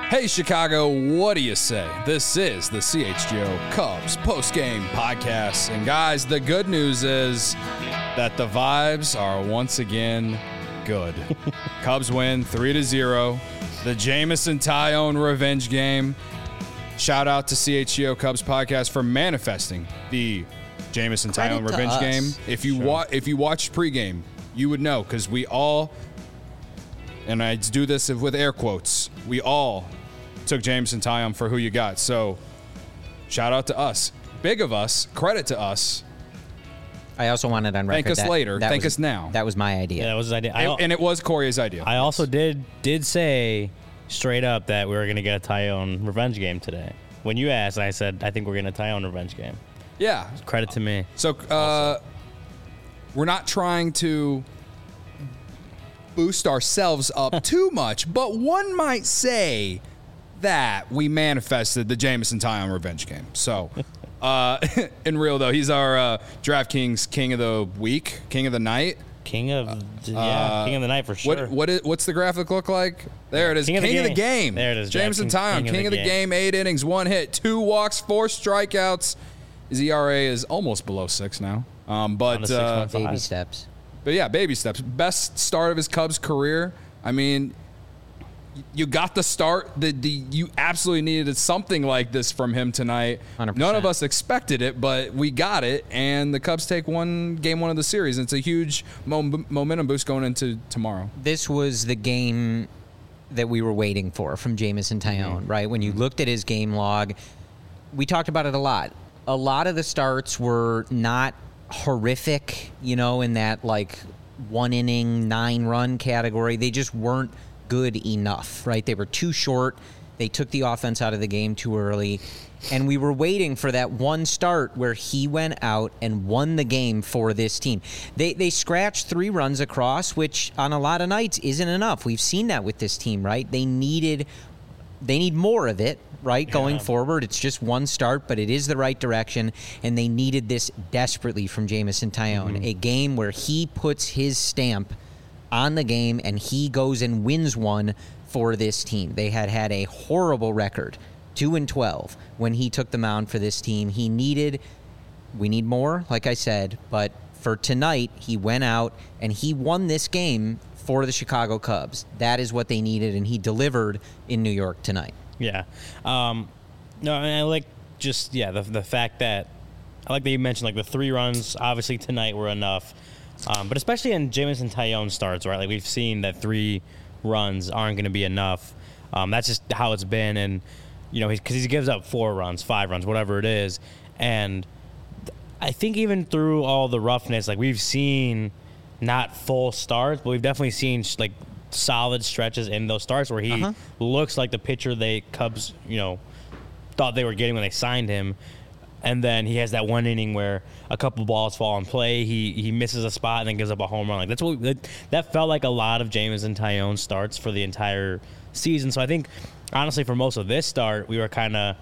Hey, Chicago, what do you say? This is the CHGO Cubs postgame podcast. And guys, the good news is that the vibes are once again good. Cubs win 3-0. The Jameson Taillon revenge game. Shout out to CHGO Cubs podcast for manifesting the Jameson Taillon revenge game. If you watched pregame, you would know, because we all, and I do this with air quotes, we all took Jameson Taillon for who you got. So shout out to us. Big of us. Credit to us. I also wanted on record. Thank us later. Thank us now. That was my idea. Yeah, that was his idea. And it was Corey's idea. I also did say straight up that we were going to get a Taillon revenge game today. When you asked, I said, I think we're getting a Taillon revenge game. Yeah. Credit to me. So we're not trying to boost ourselves up too much, but one might say that we manifested the Jameson Taillon revenge game. So, in real though, he's our DraftKings King of the Week, King of the Night. King of the Night for sure. What's the graphic look like? There it is. King of the game. There it is. Jameson Taillon, King of the game. 8 innings, 1 hit, 2 walks, 4 strikeouts. His ERA is almost below 6 now. But baby steps. But yeah, baby steps. Best start of his Cubs career. I mean, you got the start. You absolutely needed something like this from him tonight. 100%. None of us expected it, but we got it, and the Cubs take game one of the series. And it's a huge momentum boost going into tomorrow. This was the game that we were waiting for from Jameson Taillon, right? When you looked at his game log, we talked about it a lot. A lot of the starts were not horrific, in that like 1 inning, 9-run category. They just weren't good enough, right? They were too short. They took the offense out of the game too early. And we were waiting for that one start where he went out and won the game for this team. They scratched 3 runs across, which on a lot of nights isn't enough. We've seen that with this team, right? They need more of it, right, going forward. It's just one start, but it is the right direction, and they needed this desperately from Jameson Taillon, a game where he puts his stamp on the game and he goes and wins one for this team. They had a horrible record, 2-12, when he took the mound for this team. We need more, like I said, but for tonight, he went out and he won this game for the Chicago Cubs. That is what they needed, and he delivered in New York tonight. Yeah. No, and I like the fact that I like that you mentioned like the 3 runs obviously tonight were enough. But especially in Jameson Taillon starts, right? Like we've seen that 3 runs aren't going to be enough. That's just how it's been, and because he gives up 4 runs, 5 runs, whatever it is, and I think even through all the roughness, like we've seen not full starts, but we've definitely seen like solid stretches in those starts where he looks like the pitcher Cubs thought they were getting when they signed him. And then he has that 1 inning where a couple balls fall in play. He misses a spot and then gives up a home run. Like that felt like a lot of Jameson Taillon starts for the entire season. So I think honestly for most of this start, we were kind of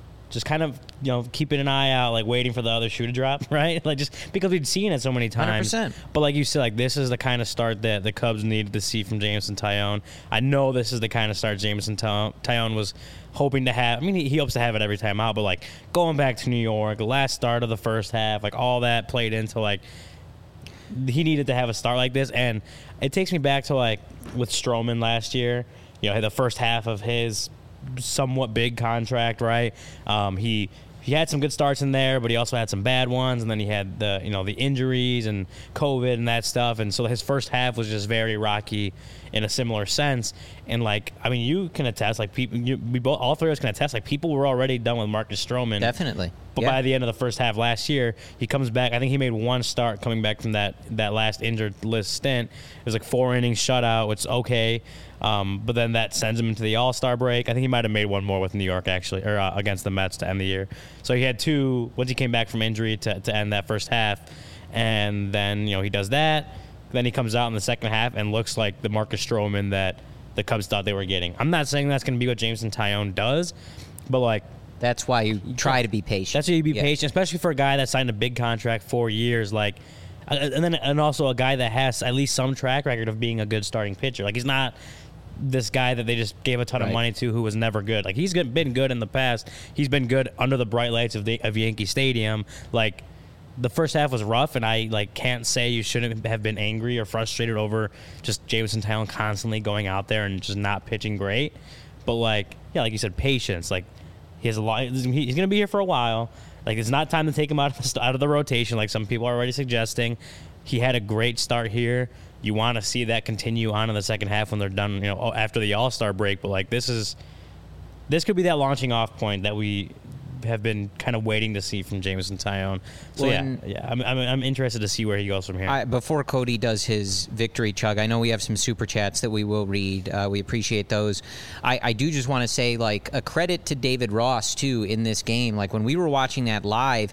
keeping an eye out, like waiting for the other shoe to drop, right? Like just because we'd seen it so many times. 100%. But like you said, like this is the kind of start that the Cubs needed to see from Jameson Taillon. I know this is the kind of start Jameson Taillon was hoping to have. I mean, he hopes to have it every time out, but like going back to New York, the last start of the first half, like all that played into like he needed to have a start like this. And it takes me back to like with Stroman last year, the first half of his somewhat big contract, right? He had some good starts in there, but he also had some bad ones, and then he had the injuries and COVID and that stuff, and so his first half was just very rocky in a similar sense. And like, I mean, you can attest, like all 3 of us can attest, like people were already done with Marcus Stroman. Definitely. But by the end of the first half last year, he comes back. I think he made 1 start coming back from that last injured list stint. It was like 4 innings shutout, which is okay. But then that sends him into the All-Star break. I think he might have made 1 more with New York, actually, or against the Mets to end the year. So he had 2 once he came back from injury to end that first half. And then, he does that. Then he comes out in the second half and looks like the Marcus Stroman that the Cubs thought they were getting. I'm not saying that's going to be what Jameson Taillon does, but like, that's why you try to be patient. That's why you be patient, especially for a guy that signed a big contract 4 years. Like, and also a guy that has at least some track record of being a good starting pitcher. Like he's not this guy that they just gave a ton of money to who was never good. Like, he's been good in the past. He's been good under the bright lights of Yankee Stadium. Like, the first half was rough, and I can't say you shouldn't have been angry or frustrated over just Jameson Taillon constantly going out there and just not pitching great. But like you said, patience. Like, he has a lot. He's going to be here for a while. Like, it's not time to take him out of the rotation, like some people are already suggesting. He had a great start here. You want to see that continue on in the second half when they're done, after the All-Star break. But like, this could be that launching off point that we have been kind of waiting to see from Jameson Taillon. So I'm interested to see where he goes from here. Before Cody does his victory chug, I know we have some super chats that we will read. We appreciate those. I do just want to say, like, a credit to David Ross too in this game. Like, when we were watching that live,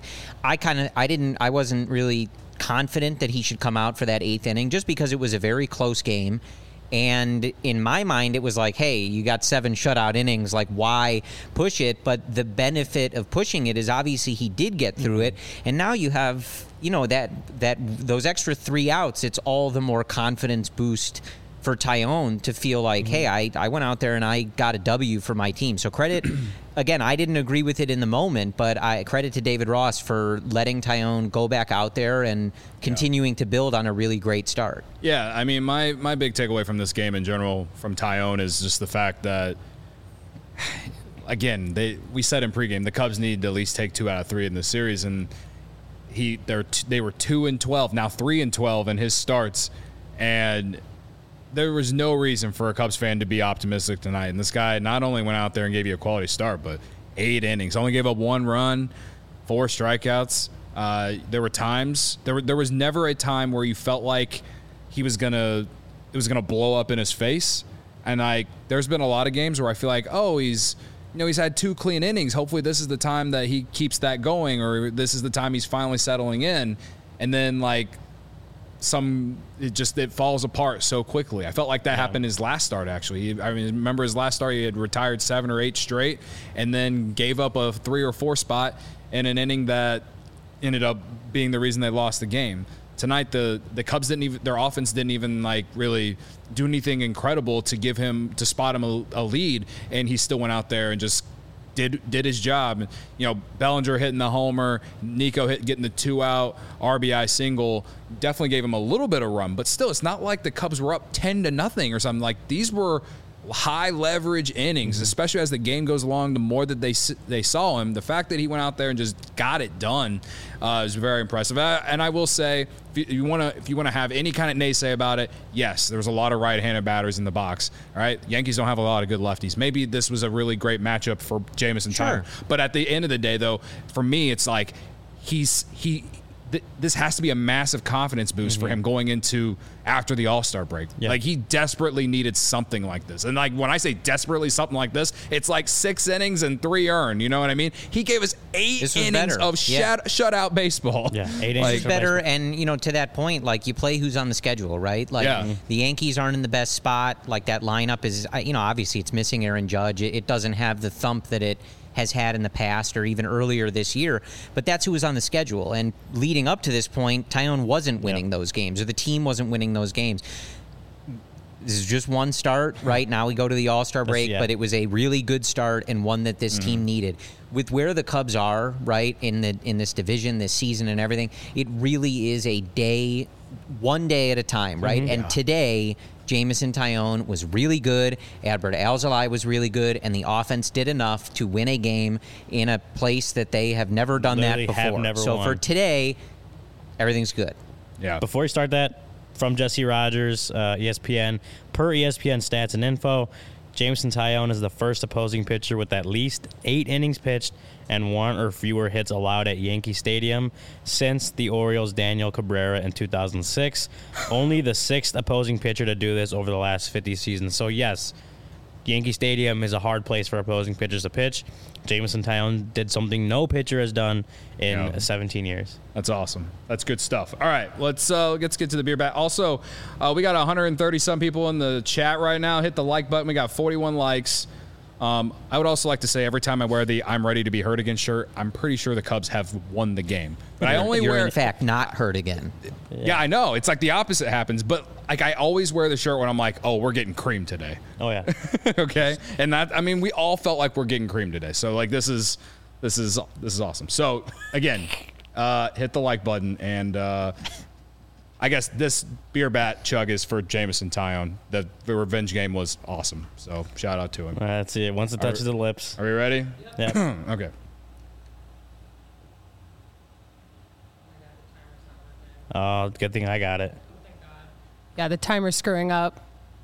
I wasn't really confident that he should come out for that 8th inning, just because it was a very close game. And in my mind, it was like, hey, you got 7 shutout innings. Like, why push it? But the benefit of pushing it is obviously he did get through it. And now you have, those extra 3 outs. It's all the more confidence boost for Taillon to feel like, hey, I went out there and I got a W for my team. So credit, again, I didn't agree with it in the moment, but I credit to David Ross for letting Taillon go back out there and continuing to build on a really great start. Yeah, I mean, my big takeaway from this game in general from Taillon is just the fact that, again, we said in pregame the Cubs need to at least take 2 out of 3 in the series, and they were 2-12, now 3-12 in his starts, and there was no reason for a Cubs fan to be optimistic tonight. And this guy not only went out there and gave you a quality start, but 8 innings. Only gave up 1 run, 4 strikeouts. There were times there was never a time where you felt like it was gonna blow up in his face. And there's been a lot of games where I feel like, he's had 2 clean innings. Hopefully this is the time that he keeps that going, or this is the time he's finally settling in. And then it falls apart so quickly. I felt like that happened his last start, actually. Remember his last start, he had retired 7 or 8 straight and then gave up a 3 or 4 spot in an inning that ended up being the reason they lost the game. Tonight, the Cubs their offense didn't even really do anything incredible to spot him a lead, and he still went out there and just did his job. Bellinger hitting the homer, Nico getting the 2-out RBI single definitely gave him a little bit of run, but still, it's not like the Cubs were up 10-0 or something. Like, these were high leverage innings, especially as the game goes along. The more that they saw him, the fact that he went out there and just got it done is very impressive. And I will say, if you want to have any kind of naysay about it, yes, there was a lot of right-handed batters in the box. All right, Yankees don't have a lot of good lefties. Maybe this was a really great matchup for Jameson Taillon. But at the end of the day, though, for me, it's like this has to be a massive confidence boost for him going into after the All-Star break. Yeah. Like, he desperately neted something like this. And when I say desperately something like this, it's like 6 innings and 3 earned. You know what I mean? He gave us 8 innings of shutout baseball. Yeah, 8 innings better. And, to that point, you play who's on the schedule, right? The Yankees aren't in the best spot. That lineup is, obviously it's missing Aaron Judge. It doesn't have the thump that it has had in the past or even earlier this year, but that's who was on the schedule. And leading up to this point, Taillon wasn't winning those games, or the team wasn't winning those games. This is just one start, right? Now we go to the All-Star break, but it was a really good start and one that this team needed. With where the Cubs are, right, in this division, this season and everything, it really is one day at a time, right? And today, Jameson Taillon was really good, Adbert Alzolay was really good, and the offense did enough to win a game in a place that they have never done that before. So for today, everything's good. Yeah. Before we start that, from Jesse Rogers, ESPN, per ESPN Stats and Info, Jameson Taillon is the first opposing pitcher with at least 8 innings pitched and 1 or fewer hits allowed at Yankee Stadium since the Orioles' Daniel Cabrera in 2006. Only the 6th opposing pitcher to do this over the last 50 seasons. So, yes, Yankee Stadium is a hard place for opposing pitchers to pitch. Jameson Taillon did something no pitcher has done in 17 years. That's awesome. That's good stuff. All right, let's get to the beer bat. Also, we got 130 some people in the chat right now. Hit the like button. We got 41 likes. I would also like to say every time I wear the "I'm ready to be hurt again" shirt, I'm pretty sure the Cubs have won the game. But I only You're wear. in fact not hurt again. Yeah, I know. It's like the opposite happens. But like I always wear the shirt when I'm like, oh, we're getting creamed today. Oh yeah. Okay, and that, I mean, we all felt like we're getting creamed today. So like this is awesome. So again, hit the like button, and I guess this beer bat chug is for Jameson Taillon. The revenge game was awesome. So shout out to him. All right, that's it. Once it touches the lips. Are we ready? Yeah. Okay. Oh, good thing I got it. Yeah, the timer's screwing up.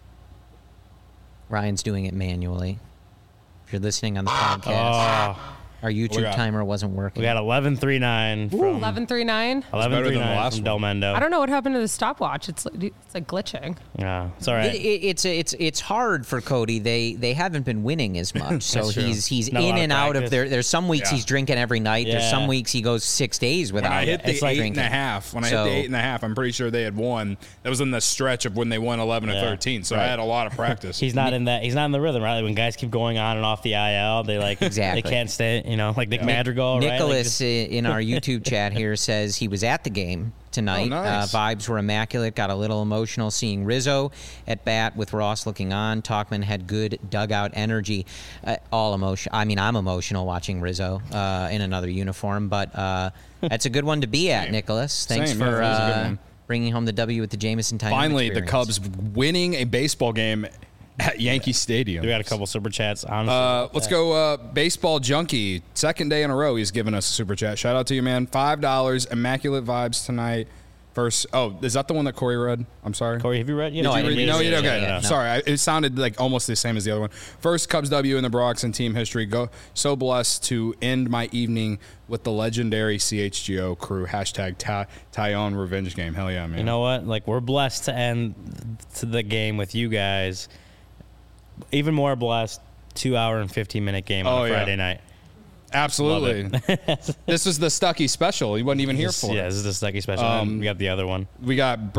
Ryan's doing it manually. If you're listening on the podcast, Oh, our YouTube got? timer wasn't working. we got 11:39 from 11:39. 11:39 from Del Mendo. I don't know what happened to the stopwatch. It's like glitching. Yeah, it's all right. It's hard for Cody. They haven't been winning as much, so That's true. he's Not a in lot of and out of practice. there. There's some weeks Yeah. he's drinking every night. There's Yeah. some weeks he goes 6 days When without I hit the It's like 8.5, when I hit So- the 8.5, I'm pretty sure they had won. That was in the stretch of when they won 11 and Yeah. 13. So I Right. had a lot of practice. He's not in that. He's not in the rhythm, right? Like when guys keep going on and off the IL, they like Exactly. They can't stay. You know, like Nick Madrigal, right? Like Nicholas just- in our YouTube chat here says he was at the game tonight. Oh, nice. Vibes were immaculate. Got a little emotional seeing Rizzo at bat with Ross looking on. Talkman had good dugout energy. All emotion. I mean, I'm emotional watching Rizzo in another uniform, but that's a good one to be at, Same. Nicholas. Thanks Same, for yeah, that was a good one. bringing home the W with the Jameson Taillon Finally, the experience. Cubs winning a baseball game at Yankee Stadium. we got a couple super chats. Honestly, Let's go. Baseball Junkie, second day in a row, he's given us a super chat. Shout out to you, man. $5. Immaculate vibes tonight. First, is that the one that Corey read? I'm sorry. Corey, have you read? No, I didn't read No, it. you okay. Yeah, no. Sorry, it sounded like almost the same as the other one. First Cubs W in the Bronx and team history. Go so blessed to end my evening with the legendary CHGO crew. Hashtag Taillon revenge game. Hell yeah, man. You know what? Like we're blessed to end to the game with you guys. Even more blessed, 2-hour and 15-minute game on Oh, a yeah. Friday night. Absolutely. This is the Stucky special. He wasn't even here for Yeah, it. this is the Stucky special. And we got the other one. We got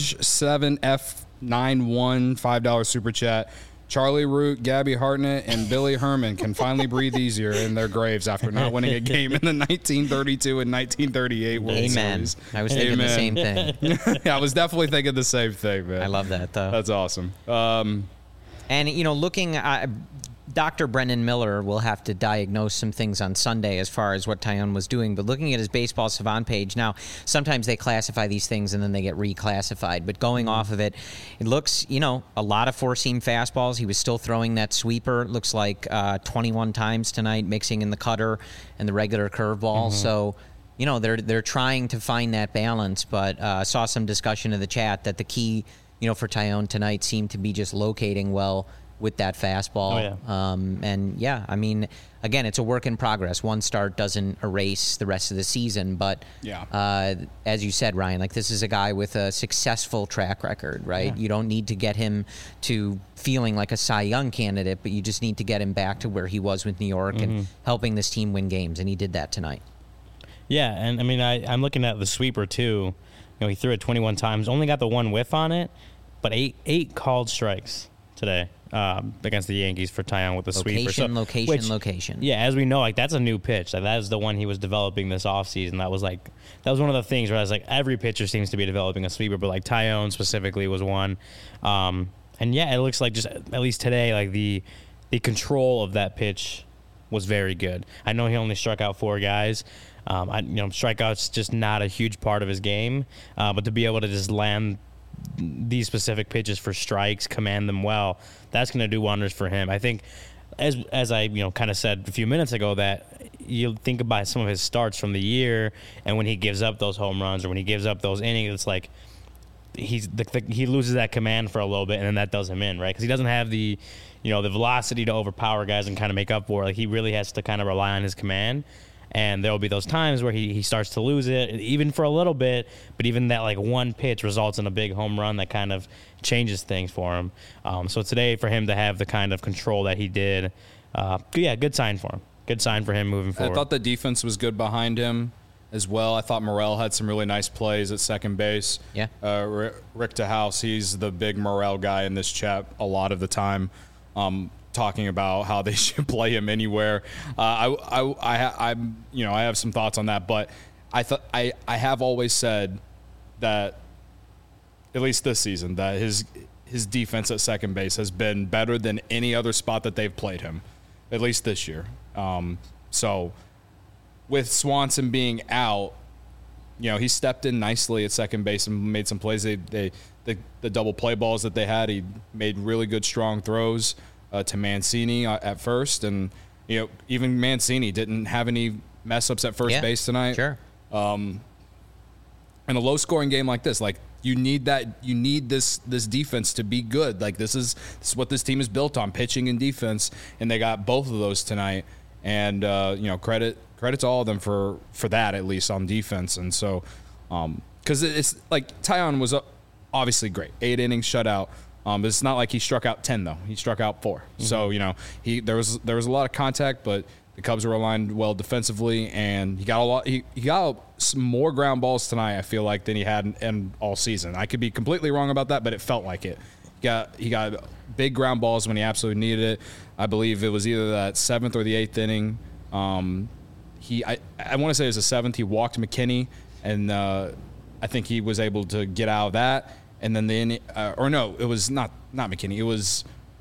Burge7F91 $5 super chat. Charlie Root, Gabby Hartnett, and Billy Herman can finally breathe easier in their graves after not winning a game in the 1932 and 1938 World Amen. Series. I was thinking the same thing. Yeah, I was definitely thinking the same thing, man. I love that, though. That's awesome. And, looking, Dr. Brendan Miller will have to diagnose some things on Sunday as far as what Taillon was doing. But looking at his Baseball Savant page, now, sometimes they classify these things and then they get reclassified. But going off of it, it looks, a lot of four-seam fastballs. He was still throwing that sweeper. It looks like 21 times tonight, mixing in the cutter and the regular curveball. So, they're trying to find that balance. But saw some discussion in the chat that the key, for Taillon tonight seemed to be just locating well with that fastball. Oh, yeah. I mean, again, it's a work in progress. One start doesn't erase the rest of the season, but as you said, Ryan, like this is a guy with a successful track record, right? Yeah. You don't need to get him to feeling like a Cy Young candidate, but you just need to get him back to where he was with New York and helping this team win games, and he did that tonight. Yeah, and I mean, I'm looking at the sweeper too. He threw it 21 times, only got the one whiff on it, but eight called strikes today against the Yankees for Taillon with the sweeper. Location. Yeah, as we know, like that's a new pitch. Like that is the one he was developing this offseason. That was one of the things where I was like, every pitcher seems to be developing a sweeper, but like Taillon specifically was one. And yeah, it looks like just at least today, like the control of that pitch was very good. I know he only struck out 4 guys. Strikeouts just not a huge part of his game, but to be able to just land these specific pitches for strikes, command them well, that's going to do wonders for him. I think, as I kind of said a few minutes ago, that you think about some of his starts from the year, and when he gives up those home runs or when he gives up those innings, it's like he loses that command for a little bit, and then that does him in, right? Because he doesn't have the the velocity to overpower guys and kind of make up for it. Like he really has to kind of rely on his command. And there will be those times where he starts to lose it, even for a little bit, but even that like one pitch results in a big home run that kind of changes things for him. So today for him to have the kind of control that he did, good sign for him. Good sign for him moving forward. I thought the defense was good behind him as well. I thought Morel had some really nice plays at second base. Yeah. Rick DeHouse, he's the big Morel guy in this chat a lot of the time. talking about how they should play him anywhere. I have some thoughts on that, but I have always said that, at least this season, that his defense at second base has been better than any other spot that they've played him, at least this year. So with Swanson being out, he stepped in nicely at second base and made some plays. The double play balls that they had, he made really good, strong throws to Mancini at first. And, even Mancini didn't have any mess-ups at first base tonight. Sure. In a low-scoring game like this, you need that. You need this defense to be good. This is what this team is built on, pitching and defense, and they got both of those tonight. And credit to all of them for that, at least on defense. And so, because it's like Taillon was obviously great, 8 innings shutout. But it's not like he struck out 10 though. He struck out 4. Mm-hmm. So there was a lot of contact, but the Cubs were aligned well defensively, and he got he got some more ground balls tonight, I feel like, than he had in all season. I could be completely wrong about that, but it felt like it. He got big ground balls when he absolutely needed it. I believe it was either that 7th or the 8th inning. I want to say it was the 7th. He walked McKinney, and I think he was able to get out of that. And then it was not McKinney. It was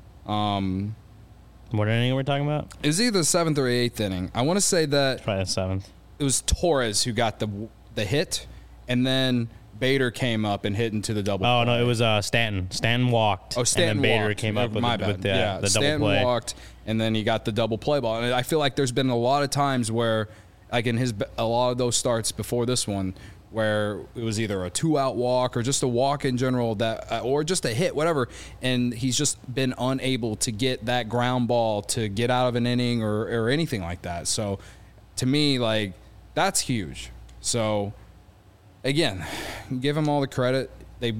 what inning are we talking about? It was either the 7th or 8th inning. I want to say that probably the 7th. It was Torres who got the hit, and then Bader came up and hit into the double play. No, it was Stanton. Stanton walked. Oh, Stanton and then Bader walked. came up with the double Stanton play. walked, and then he got the double play ball. And I feel like there's been a lot of times where, like in a lot of those starts before this one, where it was either a 2-out walk or just a walk in general, or just a hit, whatever, and he's just been unable to get that ground ball to get out of an inning or anything like that. So to me, that's huge. So again, give him all the credit. It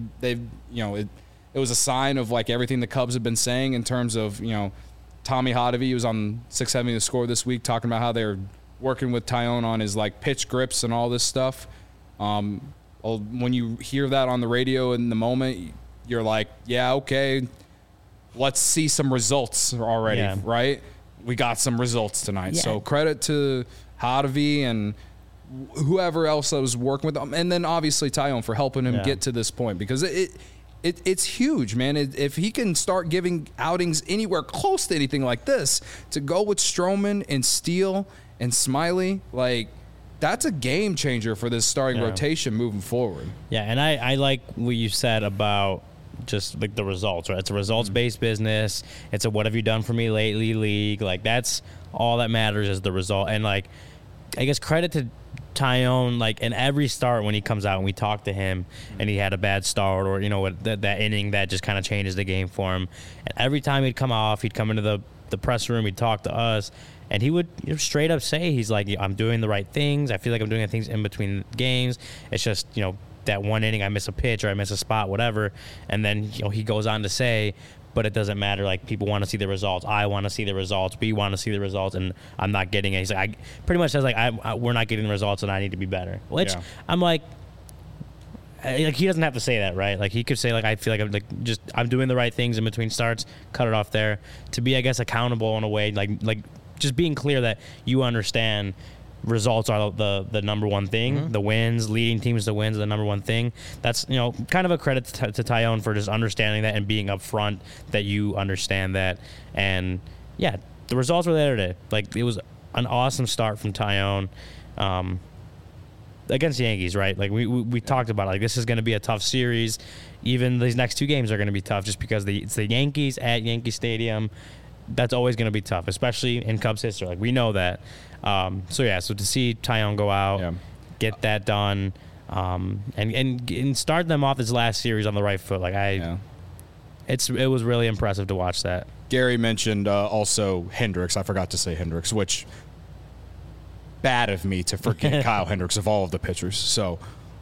was a sign of everything the Cubs have been saying in terms of, Tommy Hotovy was on 670 The Score this week talking about how they're working with Taillon on his pitch grips and all this stuff. When you hear that on the radio in the moment, you're like, yeah, okay, let's see some results already, right? We got some results tonight. Yeah. So credit to Hotovy and whoever else that was working with him, and then obviously Taillon for helping him get to this point, because it's huge, man. If he can start giving outings anywhere close to anything like this, to go with Stroman and Steele and Smiley, that's a game changer for this starting rotation moving forward. Yeah, and I like what you said about just the results, right? It's a results-based business. It's a what have you done for me lately league. That's all that matters is the result. And I guess credit to Taillon, in every start when he comes out and we talk to him and he had a bad start or, that inning that just kind of changes the game for him. And every time he'd come off, he'd come into the press room, he'd talk to us, and he would straight up say, he's like, I'm doing the right things. I feel like I'm doing the things in between games. It's just, that one inning I miss a pitch or I miss a spot, whatever. And then, he goes on to say, but it doesn't matter. People want to see the results. I want to see the results. We want to see the results, and I'm not getting it. He's like, I pretty much says we're not getting the results, and I need to be better. Which I'm like, he doesn't have to say that, right? He could say I feel like I'm doing the right things in between starts. Cut it off there. To be, I guess, accountable in a way, just being clear that you understand results are the number one thing. Mm-hmm. The wins, leading teams to wins, are the number one thing. That's kind of a credit to Taillon for just understanding that and being upfront that you understand that. And yeah, the results were there today. It was an awesome start from Taillon against the Yankees, right? We talked about this is going to be a tough series. Even these next 2 games are going to be tough just because it's the Yankees at Yankee Stadium. That's always going to be tough, especially in Cubs history. We know that. So to see Taillon go out, get that done, and start them off this last series on the right foot, it was really impressive to watch that. Gary mentioned also Hendricks. I forgot to say Hendricks, which bad of me to forget Kyle Hendricks of all of the pitchers. So,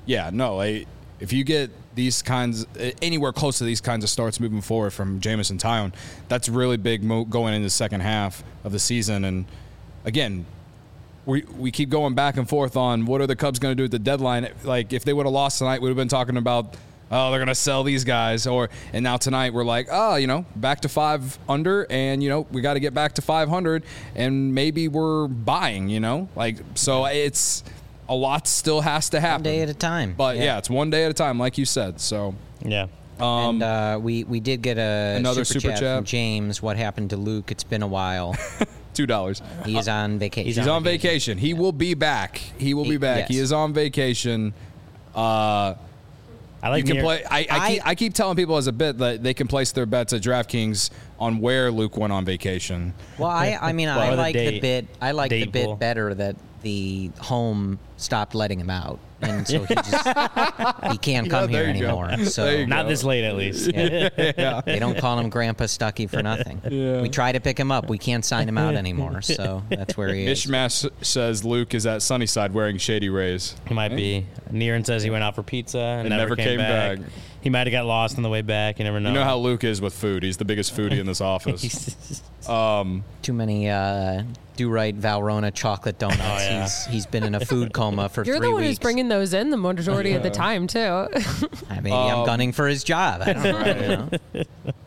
if you get these kinds, anywhere close to these kinds of starts moving forward from Jameson Taillon, that's really big going into the second half of the season. And again, we keep going back and forth on what are the Cubs going to do at the deadline. If they would have lost tonight, we would have been talking about oh, they're going to sell these guys. And now tonight we're like, oh, back to 5 under, and, we got to get back to 500, and maybe we're buying, so it's a lot still has to happen. One day at a time. But yeah, it's one day at a time, like you said. So yeah. And we did get another super chat from James. What happened to Luke? It's been a while. $2. He is on vacation. He's on vacation. He will be back. He will be back. Yes. He is on vacation. I like you can play. I keep telling people as a bit that they can place their bets at DraftKings on where Luke went on vacation. Well, I mean, I Or the like the date- bit. I like the date bit pool. better that the home stopped letting him out, and so he can't come here there you go. anymore. So There you Not this late, at least. they don't call him Grandpa Stuckey for nothing. We try to pick him up. We can't sign him out anymore. So that's where he is. Mishmash says Luke is at Sunnyside wearing Shady Rays. He might be. Niran says he went out for pizza and never came back. He might have got lost on the way back. You never know. You know how Luke is with food. He's the biggest foodie in this office. Too many Do-Right Valrhona chocolate donuts. yeah. He's been in a food coma for You're 3 the one weeks. who's bringing those in the majority of the time, too. Maybe I'm gunning for his job. I don't know.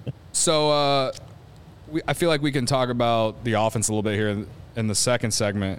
So I feel like we can talk about the offense a little bit here in the second segment.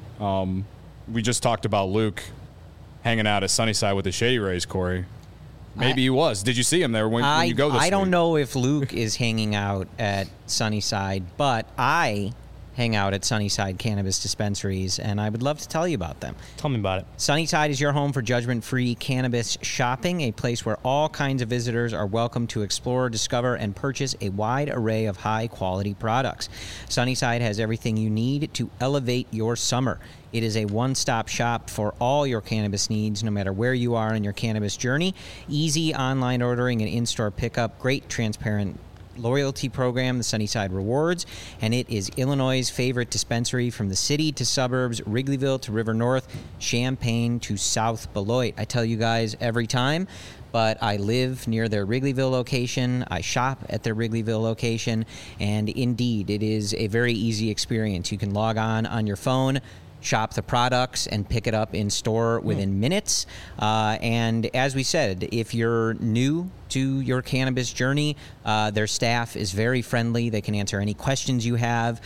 We just talked about Luke hanging out at Sunnyside with the Shady Rays, Corey. Maybe he was. Did you see him there when you go this I don't week? know if Luke is hanging out at Sunnyside, but I hang out at Sunnyside Cannabis Dispensaries, and I would love to tell you about them. Tell me about it. Sunnyside is your home for judgment-free cannabis shopping, a place where all kinds of visitors are welcome to explore, discover, and purchase a wide array of high-quality products. Sunnyside has everything you need to elevate your summer. It is a one-stop shop for all your cannabis needs, no matter where you are in your cannabis journey. Easy online ordering and in-store pickup, great transparent loyalty program, the Sunnyside Rewards, and it is Illinois' favorite dispensary from the city to suburbs, Wrigleyville to River North, Champaign to South Beloit. I tell you guys every time, but I live near their Wrigleyville location. I shop at their Wrigleyville location, and indeed, it is a very easy experience. You can log on your phone, shop the products, and pick it up in store within minutes. And as we said, if you're new to your cannabis journey, their staff is very friendly. They can answer any questions you have,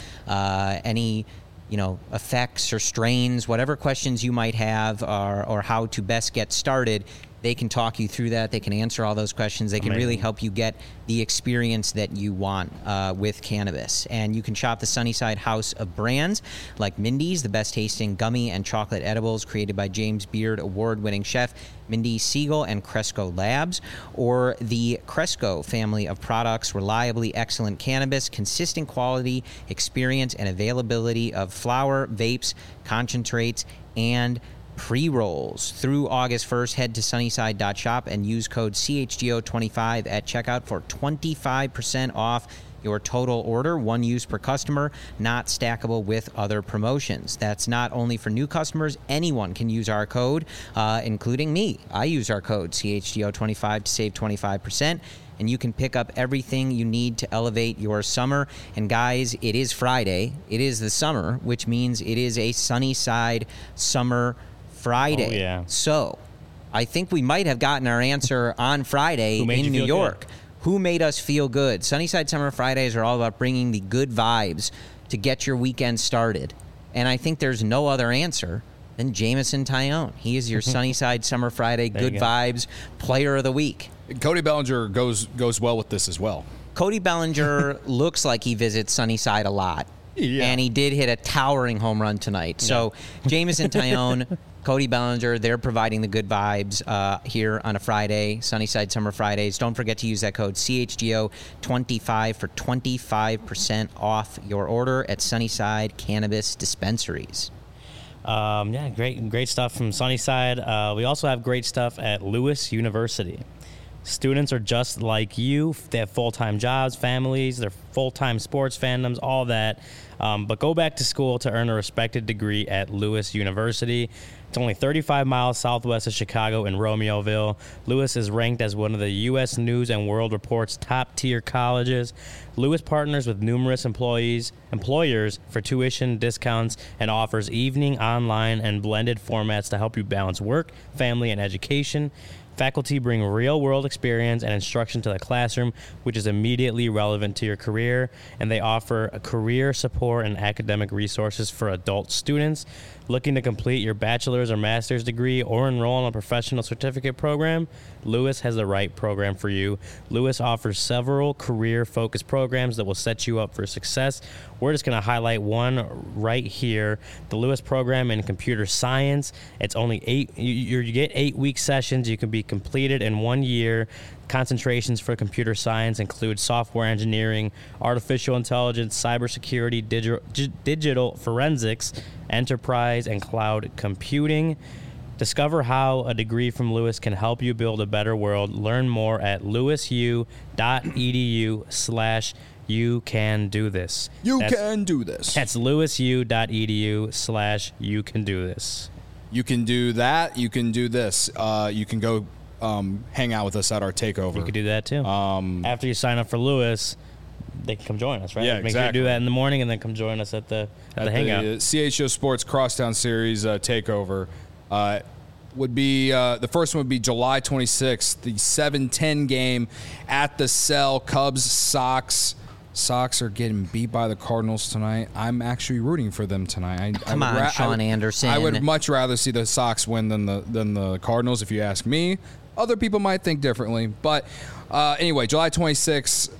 any effects or strains, whatever questions you might have, or how to best get started. They can talk you through that. They can answer all those questions. They can really help you get the experience that you want with cannabis. And you can shop the Sunnyside house of brands like Mindy's, the best tasting gummy and chocolate edibles created by James Beard award-winning chef Mindy Siegel and Cresco Labs, or the Cresco family of products, reliably excellent cannabis, consistent quality, experience, and availability of flower, vapes, concentrates, and pre-rolls. Through August 1st, head to sunnyside.shop and use code CHGO25 at checkout for 25% off your total order, one use per customer, not stackable with other promotions. That's not only for new customers. Anyone can use our code, including me. I use our code CHGO25 to save 25%. And you can pick up everything you need to elevate your summer. And guys, it is Friday. It is the summer, which means it is a Sunnyside Summer Friday. Oh, yeah. So I think we might have gotten our answer on Friday Who made in you New feel York. good? Who made us feel good? Sunnyside Summer Fridays are all about bringing the good vibes to get your weekend started. And I think there's no other answer than Jameson Tyone. He is your Sunnyside Summer Friday good you go. vibes player of the week. Cody Bellinger goes well with this as well. Cody Bellinger looks like he visits Sunnyside a lot. Yeah. And he did hit a towering home run tonight. So Jameson Tyone, Cody Bellinger, they're providing the good vibes here on a Friday, Sunnyside Summer Fridays. Don't forget to use that code CHGO25 for 25% off your order at Sunnyside Cannabis Dispensaries. Great stuff from Sunnyside. We also have great stuff at Lewis University. Students are just like you. They have full-time jobs, families, they're full-time sports fandoms, all that. But go back to school to earn a respected degree at Lewis University. It's only 35 miles southwest of Chicago in Romeoville. Lewis is ranked as one of the U.S. News and World Report's top-tier colleges. Lewis partners with numerous employers for tuition discounts and offers evening, online, and blended formats to help you balance work, family, and education. Faculty bring real-world experience and instruction to the classroom, which is immediately relevant to your career, and they offer a career support and academic resources for adult students looking to complete your bachelor's or master's degree or enroll in a professional certificate program. Lewis has the right program for you. Lewis offers several career-focused programs that will set you up for success. We're just going to highlight one right here, the Lewis program in computer science. It's only 8. You get 8-week sessions. You can be completed in 1 year. Concentrations for computer science include software engineering, artificial intelligence, cybersecurity, digital forensics, enterprise, and cloud computing. Discover how a degree from Lewis can help you build a better world. Learn more at lewisu.edu/you can do this. You can do this. That's lewisu.edu/you can do this. You can do that. You can do this. You can go hang out with us at our takeover. You could do that too. After you sign up for Lewis, they can come join us, right? Yeah, Make sure you do that in the morning and then come join us at the hangout. The CHO Sports Crosstown Series takeover would be the first one would be July 26th, the 7-10 game at the Cell. Cubs, Sox. Sox are getting beat by the Cardinals tonight. I'm actually rooting for them tonight. Come on, Sean Anderson. I would much rather see the Sox win than the Cardinals, if you ask me. Other people might think differently. But anyway, July 26th,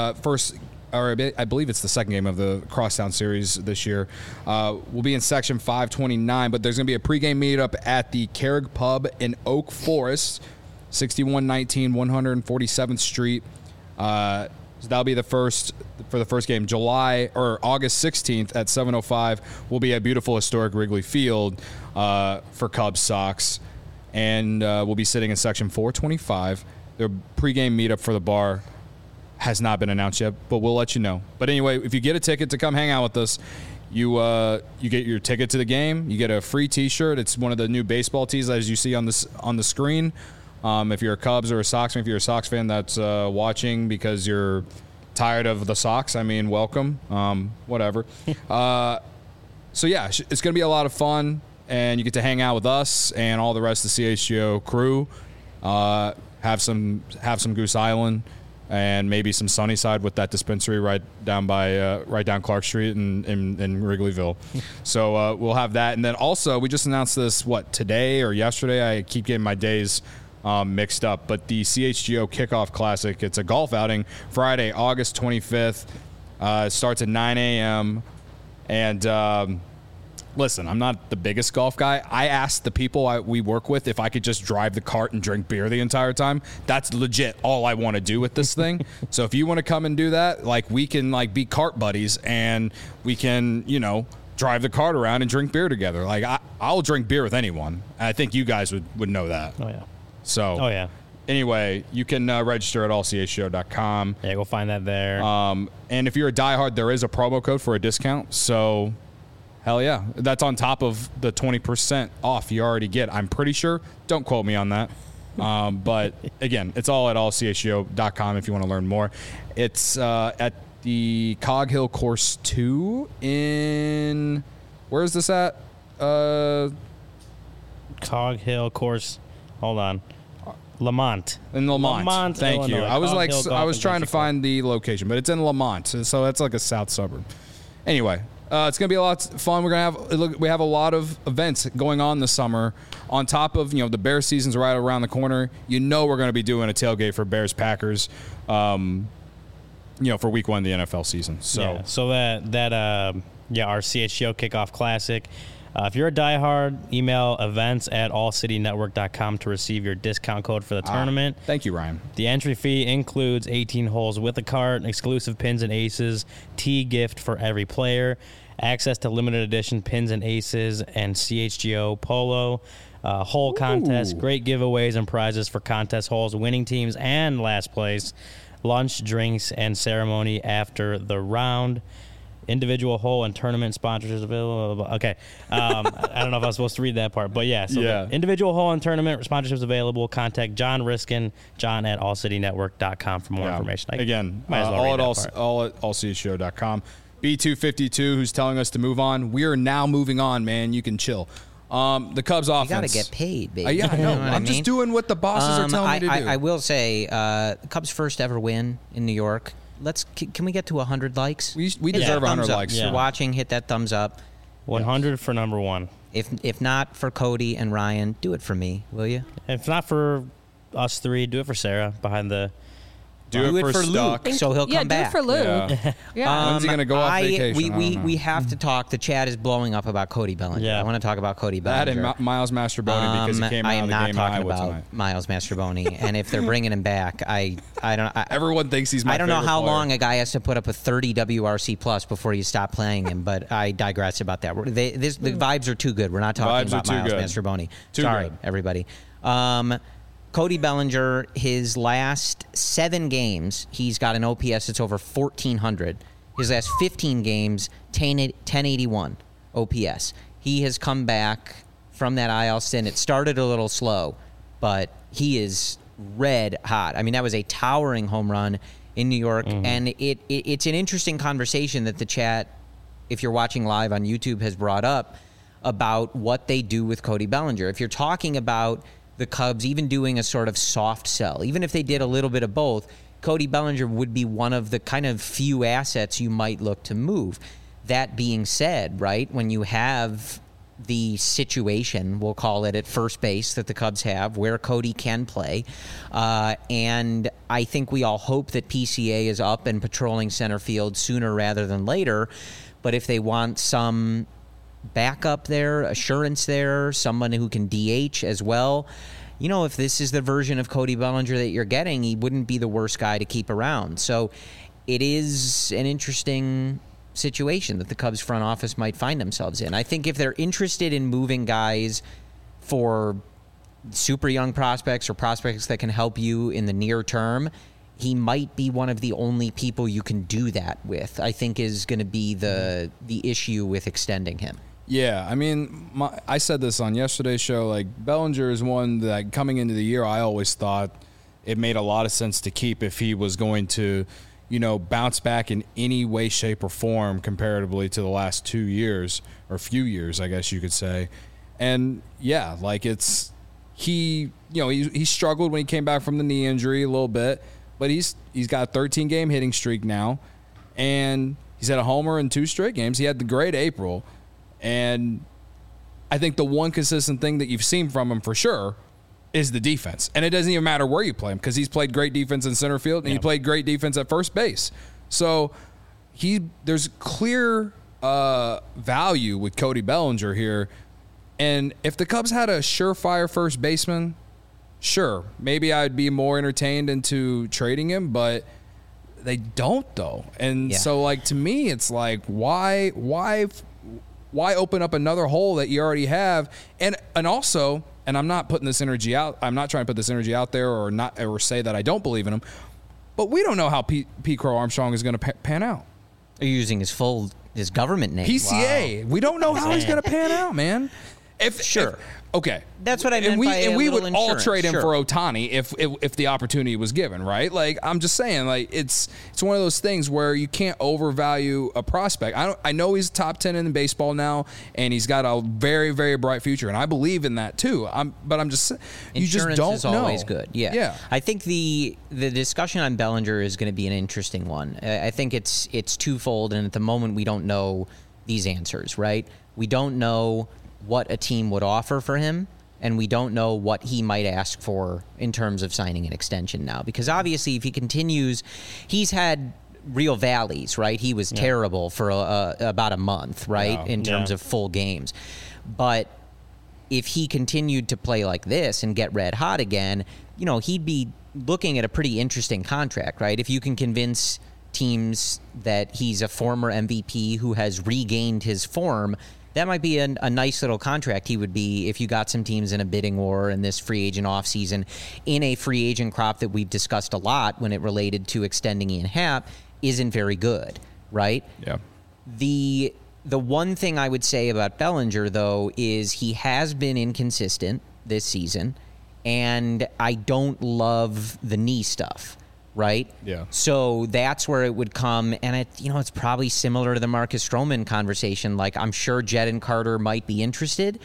I believe it's the second game of the Crosstown Series this year. We'll be in Section 529, but there's going to be a pregame meetup at the Carrig Pub in Oak Forest, 6119 147th Street. So that'll be the first game. August 16th at 7:05 will be a beautiful historic Wrigley Field for Cubs Sox, and we'll be sitting in Section 425. Their pregame meetup for the bar has not been announced yet, but we'll let you know. But anyway, if you get a ticket to come hang out with us, you get your ticket to the game. You get a free T-shirt. It's one of the new baseball tees, as you see on the screen. If you're a Cubs or a Sox fan, if you're a Sox fan that's watching because you're tired of the Sox, I mean, welcome. Whatever. So yeah, it's going to be a lot of fun, and you get to hang out with us and all the rest of the CHGO crew. Have some Goose Island. And maybe some Sunnyside with that dispensary right down Clark Street in Wrigleyville. So we'll have that. And then also, we just announced this, today or yesterday? I keep getting my days mixed up. But the CHGO Kickoff Classic, it's a golf outing, Friday, August 25th. It starts at 9 a.m. And listen, I'm not the biggest golf guy. I asked the people we work with if I could just drive the cart and drink beer the entire time. That's legit all I want to do with this thing. So if you want to come and do that, we can be cart buddies, and we can, drive the cart around and drink beer together. I'll drink beer with anyone. I think you guys would know that. Oh yeah. So. Oh yeah. Anyway, you can register at allchshow.com. Yeah, go find that there. And if you're a diehard, there is a promo code for a discount. So. Hell yeah. That's on top of the 20% off you already get, I'm pretty sure. Don't quote me on that. But, again, it's all at allchshow.com if you want to learn more. It's at the Cog Hill Course 2 in... Where is this at? Cog Hill Course... Hold on. Lamont. In Lamont. Thank Illinois. you. I was trying to find the location, but it's in Lamont. So that's like a south suburb. Anyway... it's going to be a lot of fun. We have a lot of events going on this summer. On top of, the Bears season's right around the corner. We're going to be doing a tailgate for Bears Packers, for week 1 of the NFL season. So our CHGO Kickoff Classic. If you're a diehard, email events@allcitynetwork.com to receive your discount code for the tournament. Thank you, Ryan. The entry fee includes 18 holes with a cart, exclusive pins and aces, tee gift for every player, access to limited edition pins and aces, and CHGO polo, hole contest, great giveaways and prizes for contest holes, winning teams, and last place, lunch, drinks, and ceremony after the round. Individual hole and tournament sponsors available. Okay. I don't know if I was supposed to read that part, but yeah. So the individual hole and tournament sponsorships available. Contact John Riskin, john@allcitynetwork.com for more information. Again, all at allcityshow.com. B252, who's telling us to move on. We are now moving on, man. You can chill. The Cubs offense. You got to get paid, baby. Yeah, I know. You what I'm just doing what the bosses are telling me to do. I will say, the Cubs' first ever win in New York. Can we get to 100 likes? We Hit deserve that 100 thumbs up. likes. If you're watching, hit that thumbs up. 100 for number one. If not for Cody and Ryan, do it for me, will you? If not for us three, do it for Sarah behind the. Do it for Luke, so he'll come back. do it for Luke. Yeah. Yeah. When's he going to go off vacation? We have to talk. The chat is blowing up about Cody Bellinger. Yeah. I want to talk about Cody That Bellinger. and Miles Mastrobuoni because he came I out am of the not game in talking Iowa about tonight. Miles Mastrobuoni. And if they're bringing him back, I don't. Everyone thinks he's my I don't know favorite how player. long a guy has to put up a 30 WRC plus before you stop playing him, but I digress about that. The vibes are too good. We're not talking Vibes are about too Miles good. Mastrobuoni. Too Sorry, good. everybody. Cody Bellinger, his last 7 games, he's got an OPS that's over 1,400. His last 15 games, 1081 OPS. He has come back from that IL stint. It started a little slow, but he is red hot. I mean, that was a towering home run in New York, and it's an interesting conversation that the chat, if you're watching live on YouTube, has brought up about what they do with Cody Bellinger. If you're talking about the Cubs even doing a sort of soft sell, even if they did a little bit of both, Cody Bellinger would be one of the kind of few assets you might look to move. That being said, right, when you have the situation, we'll call it at first base, that the Cubs have, where Cody can play, and I think we all hope that PCA is up and patrolling center field sooner rather than later, but if they want some backup there, assurance there, someone who can DH as well. You know, if this is the version of Cody Bellinger that you're getting, he wouldn't be the worst guy to keep around. So it is an interesting situation that the Cubs front office might find themselves in. I think if they're interested in moving guys for super young prospects or prospects that can help you in the near term, he might be one of the only people you can do that with, I think is going to be the issue with extending him. Yeah, I mean, I said this on yesterday's show. Like, Bellinger is one that coming into the year, I always thought it made a lot of sense to keep if he was going to, bounce back in any way, shape, or form comparatively to the last 2 years or few years, I guess you could say. And yeah, like he struggled when he came back from the knee injury a little bit, but he's got a 13-game hitting streak now, and he's had a homer in 2 straight games. He had the great April. And I think the one consistent thing that you've seen from him for sure is the defense. And it doesn't even matter where you play him because he's played great defense in center field and he played great defense at first base. So there's clear value with Cody Bellinger here. And if the Cubs had a surefire first baseman, sure, maybe I'd be more entertained into trading him, but they don't though. And so like to me, it's like why open up another hole that you already have? And also, and I'm not putting this energy out. I'm not trying to put this energy out there or say that I don't believe in him. But we don't know how Pete Crow Armstrong is going to pan out. Are you using his government name? PCA. Wow. We don't know how he's going to pan out, man. Okay. That's what I meant by and we would all insurance. trade him for Ohtani if the opportunity was given, right? Like, I'm just saying, like, it's one of those things where you can't overvalue a prospect. I know he's top 10 in baseball now, and he's got a very, very bright future, and I believe in that too. But I'm just you insurance just don't is know. Always good. Yeah. I think the discussion on Bellinger is going to be an interesting one. I think it's twofold, and at the moment we don't know these answers, right? We don't know what a team would offer for him, and we don't know what he might ask for in terms of signing an extension now. Because obviously, if he continues, he's had real valleys, right? He was terrible for about a month, right, in terms of full games. But if he continued to play like this and get red hot again, he'd be looking at a pretty interesting contract, right? If you can convince teams that he's a former MVP who has regained his form, that might be a nice little contract he would be if you got some teams in a bidding war in this free agent offseason in a free agent crop that we've discussed a lot when it related to extending Ian Happ isn't very good, right? Yeah. The one thing I would say about Bellinger, though, is he has been inconsistent this season, and I don't love the knee stuff. Right? Yeah. So that's where it would come, and it's probably similar to the Marcus Stroman conversation. Like, I'm sure Jed and Carter might be interested,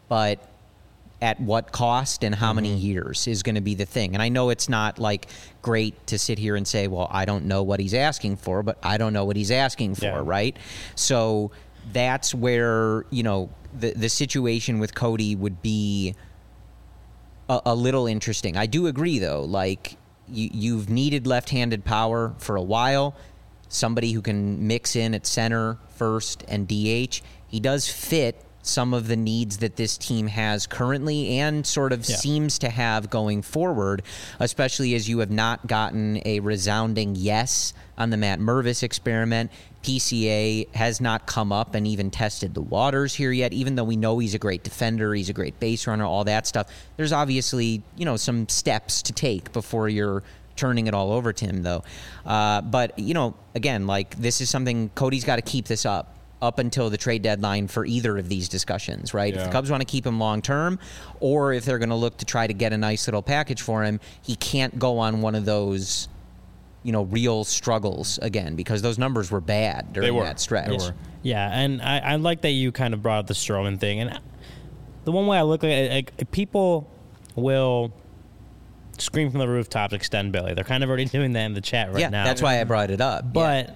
but at what cost and how many years is going to be the thing. And I know it's not like great to sit here and say, well, I don't know what he's asking for, but I don't know what he's asking for, right? So that's where, you know, the situation with Cody would be a little interesting. I do agree, though, like you've needed left-handed power for a while, somebody who can mix in at center, first, and DH. He does fit some of the needs that this team has currently and sort of seems to have going forward, especially as you have not gotten a resounding yes on the Matt Mervis experiment. PCA has not come up and even tested the waters here yet, even though we know he's a great defender, he's a great base runner, all that stuff. There's obviously, you know, some steps to take before you're turning it all over to him, though. But, you know, again, like this is something Cody's got to keep this up until the trade deadline for either of these discussions, right? If the Cubs want to keep him long term, or if they're going to look to try to get a nice little package for him, he can't go on one of those, you know, real struggles again, because those numbers were bad during that stretch. They were. Yeah, and I like that you kind of brought up the Stroman thing. And the one way I look at it, like, people will scream from the rooftops, extend Billy. They're kind of already doing that in the chat right now. Yeah, that's why I brought it up. But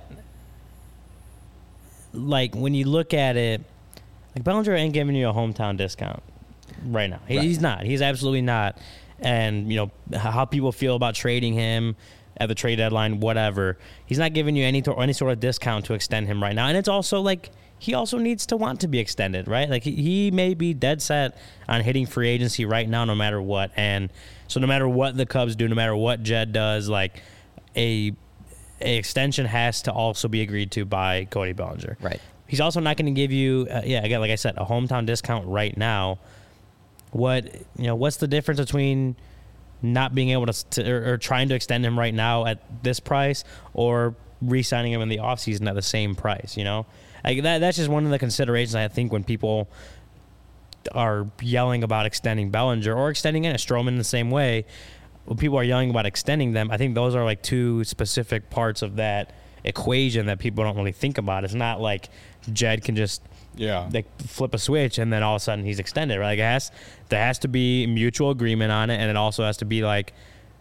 like, when you look at it, like, Bellinger ain't giving you a hometown discount right now. He's not. He's absolutely not. And, you know, how people feel about trading him at the trade deadline, whatever. He's not giving you any sort of discount to extend him right now. And it's also like, he also needs to want to be extended, right? Like, he may be dead set on hitting free agency right now, no matter what. And so no matter what the Cubs do, no matter what Jed does, like, a extension has to also be agreed to by Cody Bellinger. Right. He's also not going to give you, again, like I said, a hometown discount right now. What's the difference between not being able to or trying to extend him right now at this price, or re-signing him in the offseason at the same price? You know, like that's just one of the considerations, I think, when people are yelling about extending Bellinger or extending in a Stroman the same way. When people are yelling about extending them, I think those are like two specific parts of that equation that people don't really think about. It's not like Jed can just like flip a switch and then all of a sudden he's extended, right? Like, there has to be mutual agreement on it, and it also has to be like,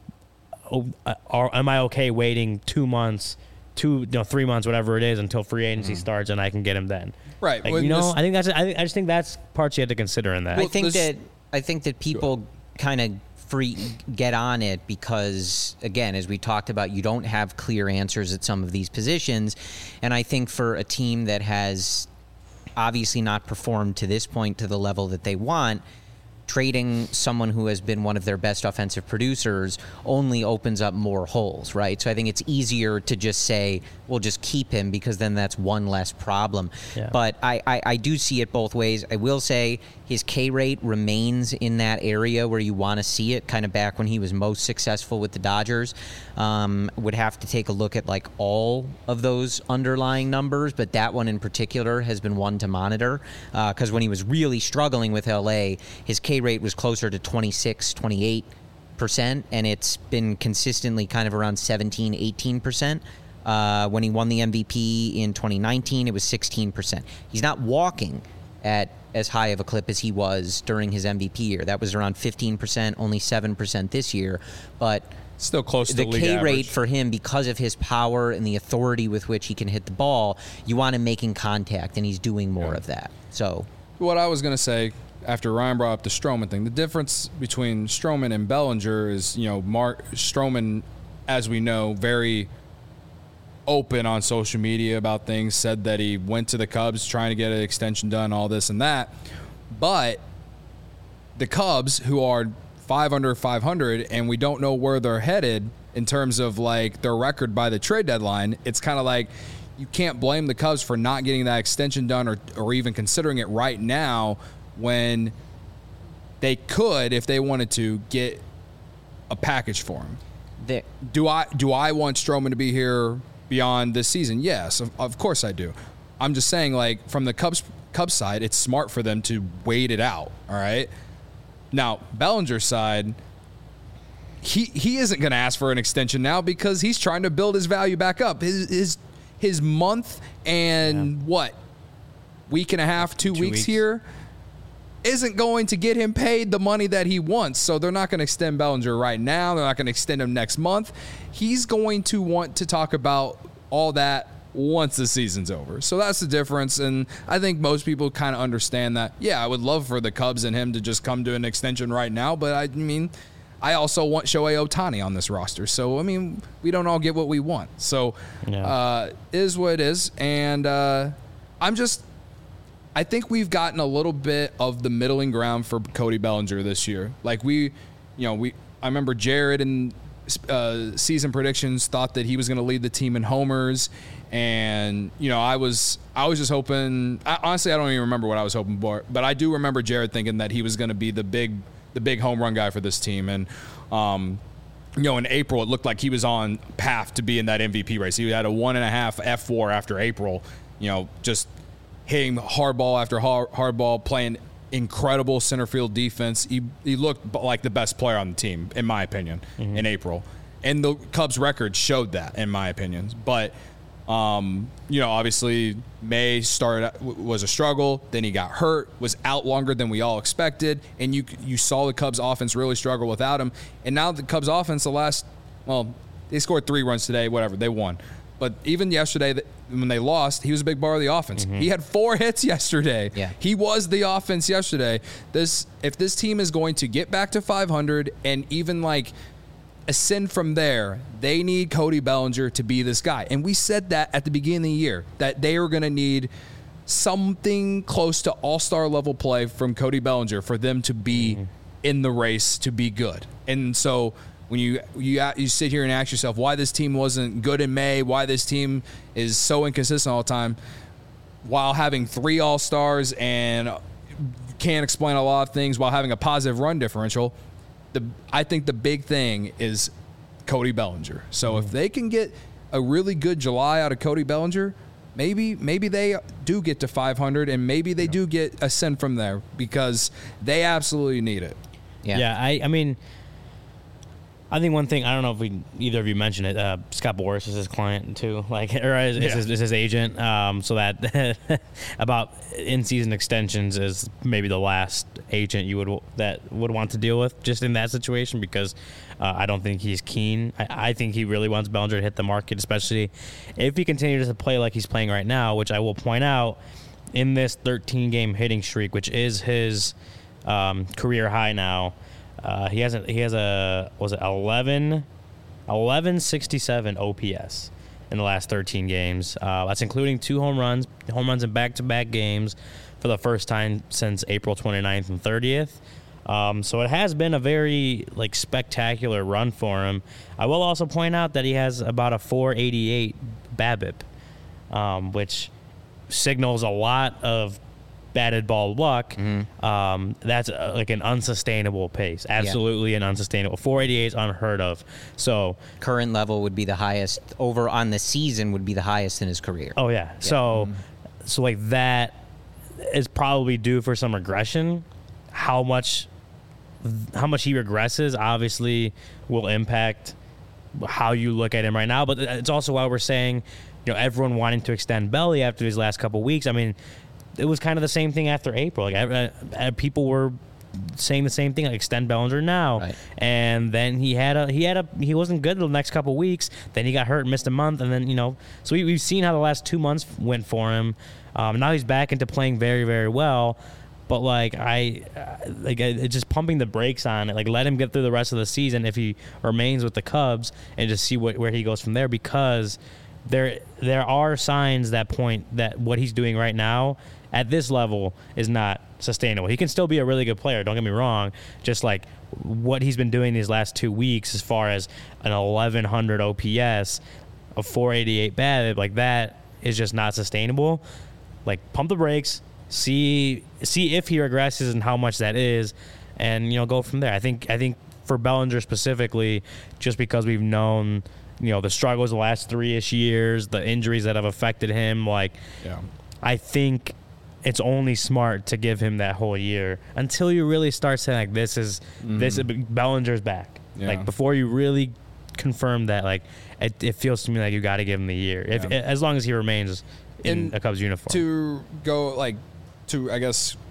am I okay waiting 2 months, 3 months, whatever it is, until free agency starts and I can get him then? Right. Like, I just think that's parts you have to consider in that. I think that people kind of get on it because, again, as we talked about, you don't have clear answers at some of these positions. And I think for a team that has obviously not performed to this point to the level that they want, trading someone who has been one of their best offensive producers only opens up more holes, right? So I think it's easier to just say, we'll just keep him, because then that's one less problem. Yeah. But I do see it both ways. I will say his K rate remains in that area where you want to see it, kind of back when he was most successful with the Dodgers. Would have to take a look at like all of those underlying numbers, but that one in particular has been one to monitor, because when he was really struggling with LA, his K rate was closer to 26, 28%, and it's been consistently kind of around 17, 18%. When he won the MVP in 2019, it was 16%. He's not walking at as high of a clip as he was during his MVP year. That was around 15%, only 7% this year. But still close to the league K average. rate for him, because of his power and the authority with which he can hit the ball, you want him making contact, and he's doing more of that. So what I was going to say, after Ryan brought up the Stroman thing, the difference between Stroman and Bellinger is, Stroman, as we know, very open on social media about things, said that he went to the Cubs trying to get an extension done, all this and that. But the Cubs, who are 5 under 500, and we don't know where they're headed in terms of like their record by the trade deadline, it's kind of like you can't blame the Cubs for not getting that extension done or even considering it right now, when they could, if they wanted to, get a package for him. Do I want Stroman to be here beyond this season? Yes, of course I do. I'm just saying, like, from the Cubs side, it's smart for them to wait it out, all right? Now, Bellinger's side, he isn't going to ask for an extension now because he's trying to build his value back up. His month and week and a half, 2 weeks here isn't going to get him paid the money that he wants. So they're not going to extend Bellinger right now. They're not going to extend him next month. He's going to want to talk about all that once the season's over. So that's the difference. And I think most people kind of understand that. Yeah, I would love for the Cubs and him to just come to an extension right now. But I mean, I also want Shohei Ohtani on this roster. So, I mean, we don't all get what we want. So it is what it is. And I think we've gotten a little bit of the middling ground for Cody Bellinger this year. Like I remember Jared in season predictions thought that he was going to lead the team in homers, and I was just hoping. Honestly, I don't even remember what I was hoping for, but I do remember Jared thinking that he was going to be the big home run guy for this team, and in April it looked like he was on path to be in that MVP race. He had a 1.5 F4 after April. Just hitting hard ball after hard ball, playing incredible center field defense. He looked like the best player on the team, in my opinion, in April. And the Cubs' record showed that, in my opinion. But, obviously May was a struggle. Then he got hurt, was out longer than we all expected. And you saw the Cubs' offense really struggle without him. And now the Cubs' offense, they scored 3 runs today, whatever, they won. But even yesterday, when they lost, he was a big part of the offense. He had 4 hits yesterday. Yeah. He was the offense yesterday. If this team is going to get back to 500 and even ascend from there, they need Cody Bellinger to be this guy. And we said that at the beginning of the year, that they were going to need something close to all-star level play from Cody Bellinger for them to be in the race to be good. And so when you sit here and ask yourself why this team wasn't good in May, why this team is so inconsistent all the time, while having 3 All-Stars and can't explain a lot of things while having a positive run differential, I think the big thing is Cody Bellinger. So if they can get a really good July out of Cody Bellinger, maybe they do get to 500 and maybe they do get ascend from there because they absolutely need it. Yeah, I mean, I think one thing, I don't know if either of you mentioned it, Scott Boras is his client too, is his agent. So that about in-season extensions is maybe the last agent that would want to deal with just in that situation because I don't think he's keen. I think he really wants Bellinger to hit the market, especially if he continues to play like he's playing right now, which I will point out in this 13-game hitting streak, which is his career high now. He has a 1167 OPS in the last 13 games. That's including 2 home runs in back-to-back games for the first time since April 29th and 30th. So it has been a very spectacular run for him. I will also point out that he has about a 488 BABIP, which signals a lot of batted ball luck. That's an unsustainable pace. Absolutely an unsustainable. 488 is unheard of. So current level would be the highest over on the season would be the highest in his career. Oh yeah. So that is probably due for some regression. How much he regresses obviously will impact how you look at him right now. But it's also why we're saying, everyone wanting to extend Belly after these last couple of weeks. I mean, it was kind of the same thing after April. People were saying the same thing, extend Bellinger now. Right. And then he wasn't good the next couple of weeks. Then he got hurt and missed a month. And then, so we've seen how the last 2 months went for him. Now he's back into playing very, very well. But it's just pumping the brakes on it. Let him get through the rest of the season if he remains with the Cubs and just see where he goes from there, because there are signs that point that what he's doing right now at this level is not sustainable. He can still be a really good player, don't get me wrong. Just what he's been doing these last 2 weeks as far as an 1100 OPS, a 488 BABIP, that is just not sustainable. Pump the brakes, see if he regresses and how much that is, and go from there. I think for Bellinger specifically, just because we've known the struggles the last 3-ish years, the injuries that have affected him, I think it's only smart to give him that whole year until you really start saying this Bellinger's back. Yeah. Before you really confirm that, it feels to me like you got to give him the year as long as he remains in a Cubs uniform. To go to, I guess,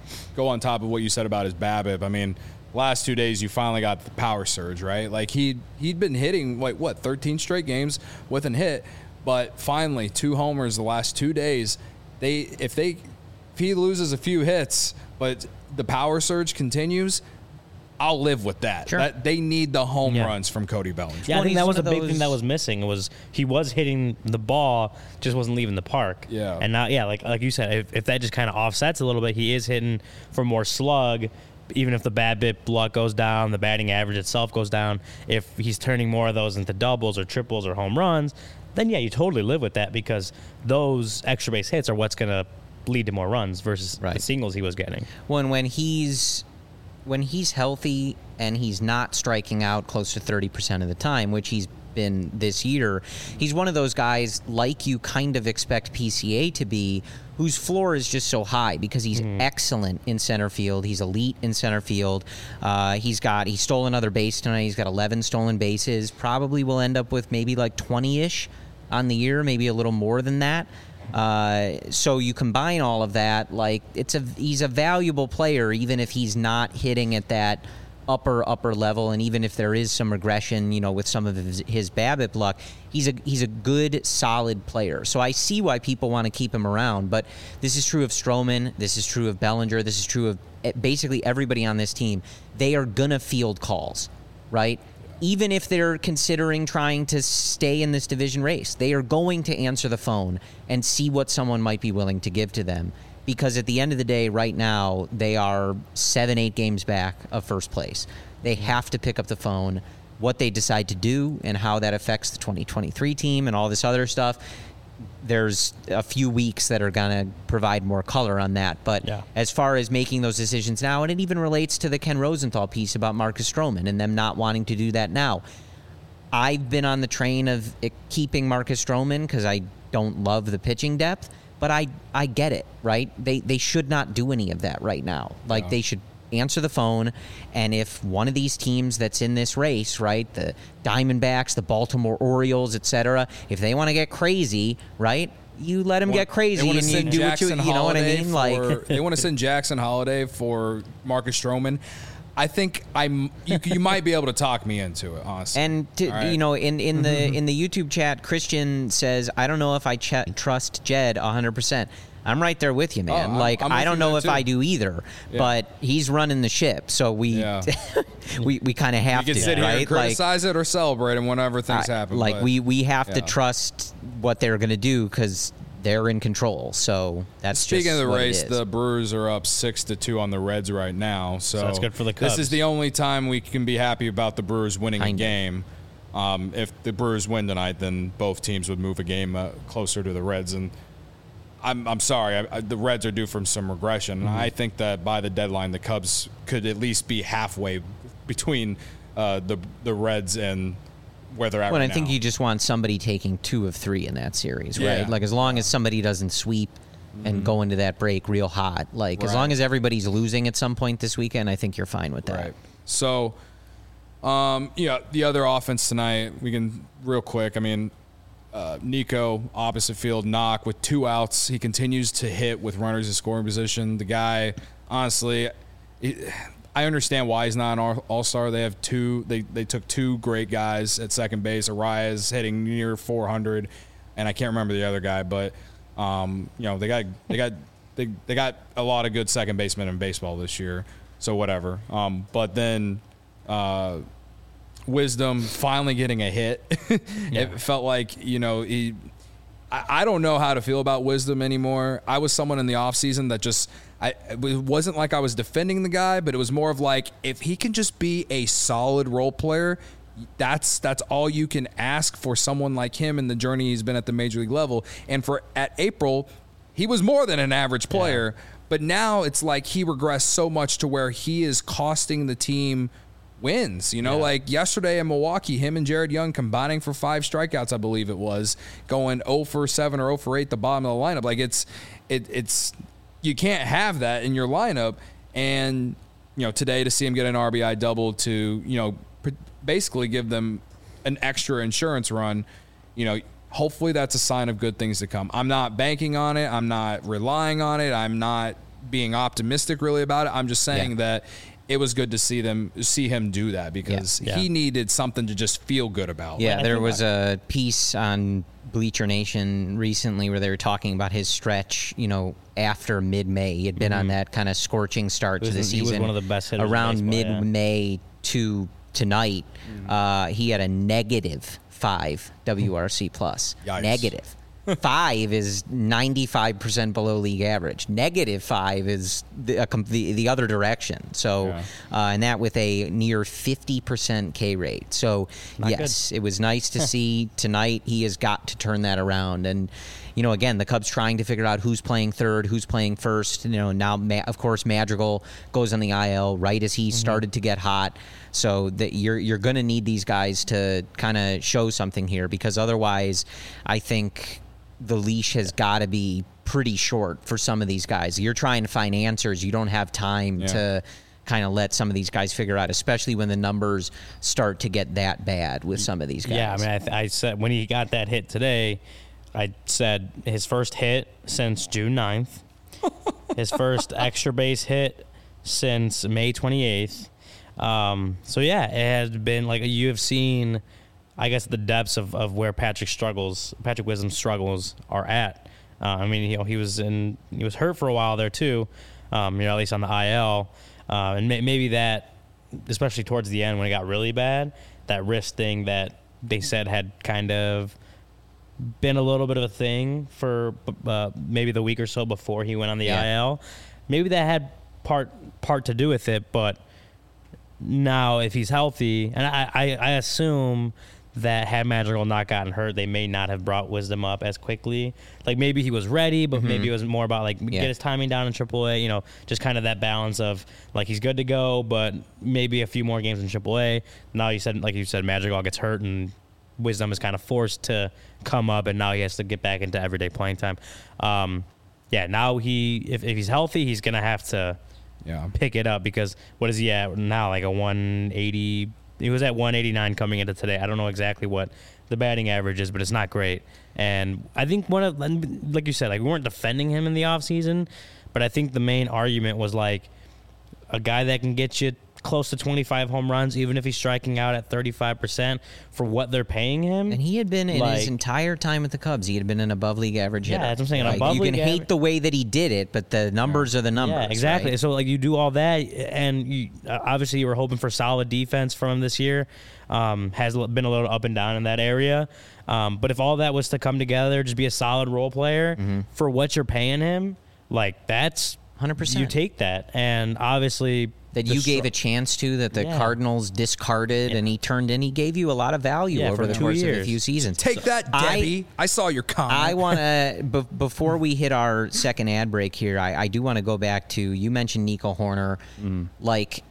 go on top of what you said about his BABIP. I mean, last 2 days you finally got the power surge, right? Like he'd been hitting 13 straight games with an hit, but finally 2 homers the last 2 days. If he loses a few hits, but the power surge continues, I'll live with that. Sure. They need the home runs from Cody Bellinger. Yeah, Well, I think that he's was a one of big thing that was missing. He was hitting the ball, just wasn't leaving the park. Yeah. And now, like you said, if that just kind of offsets a little bit, he is hitting for more slug. Even if the BABIP luck goes down, the batting average itself goes down. If he's turning more of those into doubles or triples or home runs, then yeah, you totally live with that because those extra base hits are what's going to lead to more runs versus the singles he was getting. When he's healthy and he's not striking out close to 30% of the time, which he's been this year, he's one of those guys like you kind of expect PCA to be, whose floor is just so high because he's excellent in center field. He's elite in center field. He stole another base tonight. He's got 11 stolen bases. Probably will end up with maybe like 20-ish on the year, maybe a little more than that. So you combine all of that, like he's a valuable player, even if he's not hitting at that upper level, and even if there is some regression, with some of his BABIP luck, he's a good, solid player. So I see why people want to keep him around. But this is true of Stroman. This is true of Bellinger. This is true of basically everybody on this team. They are gonna field calls, right? Even if they're considering trying to stay in this division race, they are going to answer the phone and see what someone might be willing to give to them. Because at the end of the day, right now, they are 7-8 games back of first place. They have to pick up the phone. What they decide to do and how that affects the 2023 team and all this other stuff, there's a few weeks that are going to provide more color on that. But as far as making those decisions now, and it even relates to the Ken Rosenthal piece about Marcus Stroman and them not wanting to do that now. I've been on the train of keeping Marcus Stroman because I don't love the pitching depth, but I get it, right? They should not do any of that right now. Like they should answer the phone, and if one of these teams that's in this race, right, the Diamondbacks, the Baltimore Orioles, etc., if they want to get crazy, right, you let them get crazy and you do what you know what I mean? Like they want to send Jackson Holiday for Marcus Stroman. I think you might be able to talk me into it, honestly. And in the YouTube chat, Christian says, I don't know if I trust Jed 100%. I'm right there with you, man. I don't know if I do either, but he's running the ship, so we we kind of have to, sit here right? and criticize it or celebrate it whenever things happen. We have to trust what they're going to do because they're in control. So that's speaking just of the what race. it is. The Brewers are up 6-2 on the Reds right now. So that's good for the Cubs. This is the only time we can be happy about the Brewers winning a game. If the Brewers win tonight, then both teams would move a game closer to the Reds. And I'm sorry, the Reds are due from some regression. I think that by the deadline, the Cubs could at least be halfway between the Reds and where they're at right now. I think you just want somebody taking 2 of 3 in that series, right? Yeah. Like as long as somebody doesn't sweep and go into that break real hot, as long as everybody's losing at some point this weekend, I think you're fine with that. Right. So, the other offense tonight, we can real quick. I mean, Nico, opposite field knock with 2 outs. He continues to hit with runners in scoring position. The guy, honestly, I understand why he's not an all-star. They have 2. They took 2 great guys at second base. Arias hitting near 400, and I can't remember the other guy, but they got a lot of good second basemen in baseball this year. So whatever. But then Wisdom finally getting a hit. It felt like, I don't know how to feel about Wisdom anymore. I was someone in the offseason that it wasn't like I was defending the guy, but it was more of like, if he can just be a solid role player, that's all you can ask for someone like him in the journey he's been at the major league level. And at April, he was more than an average player, but now it's like he regressed so much to where he is costing the team wins. Like yesterday in Milwaukee, him and Jared Young combining for 5 strikeouts, I believe it was, going 0 for 7 or 0 for 8 the bottom of the lineup. Like it's you can't have that in your lineup. And today to see him get an RBI double to basically give them an extra insurance run, hopefully that's a sign of good things to come. I'm not banking on it. I'm not relying on it. I'm not being optimistic really about it. I'm just saying that it was good to see him do that because he needed something to just feel good about. Yeah, there was a piece on Bleacher Nation recently where they were talking about his stretch, after mid-May. He had been on that kind of scorching start to the season. He was one of the best hitters around mid-May to tonight. He had a -5 WRC plus. Yikes. Negative. 5 is 95% below league average. -5 is the other direction. So, and that with a near 50% K rate. So, yes, it was nice to see tonight. He has got to turn that around. And, again, the Cubs trying to figure out who's playing third, who's playing first. Now, of course, Madrigal goes on the IL right as he started to get hot. So that you're going to need these guys to kind of show something here because otherwise, I think the leash has got to be pretty short for some of these guys. You're trying to find answers. You don't have time to kind of let some of these guys figure out, especially when the numbers start to get that bad with some of these guys. Yeah, I mean, I said when he got that hit today, I said his first hit since June 9th, his first extra base hit since May 28th. So, yeah, it has been like you have seen – I guess the depths of where Patrick Wisdom's struggles are at. I mean, he was hurt for a while there too, at least on the IL, and maybe that, especially towards the end when it got really bad, that wrist thing that they said had kind of been a little bit of a thing for maybe the week or so before he went on the IL. Maybe that had part to do with it, but now if he's healthy, and I assume that had Madrigal not gotten hurt, they may not have brought Wisdom up as quickly. Like maybe he was ready, but maybe it was more about get his timing down in AAA. Just kind of that balance of like he's good to go, but maybe a few more games in AAA. Now you said Madrigal gets hurt and Wisdom is kind of forced to come up, and now he has to get back into everyday playing time. Now if he's healthy, he's gonna have to pick it up because what is he at now? Like a 180. He was at 189 coming into today. I don't know exactly what the batting average is, but it's not great. And I think like you said, like we weren't defending him in the offseason, but I think the main argument was like a guy that can get you close to 25 home runs, even if he's striking out at 35% for what they're paying him. And he had been in his entire time with the Cubs. He had been an above league average hitter. Yeah, that's what I'm saying. Above you can hate the way that he did it, but the numbers are the numbers. Yeah, exactly. Right? So like you do all that, and obviously you were hoping for solid defense from him this year. Has been a little up and down in that area. But if all that was to come together, just be a solid role player for what you're paying him, like that's 100%. You take that, and obviously that you gave a chance to, that the Cardinals discarded, and he turned in. He gave you a lot of value over the course of a few seasons. Take that, Debbie. I saw your comment. I want to, before we hit our second ad break here, I do want to go back to, you mentioned Nico Hoerner. Like,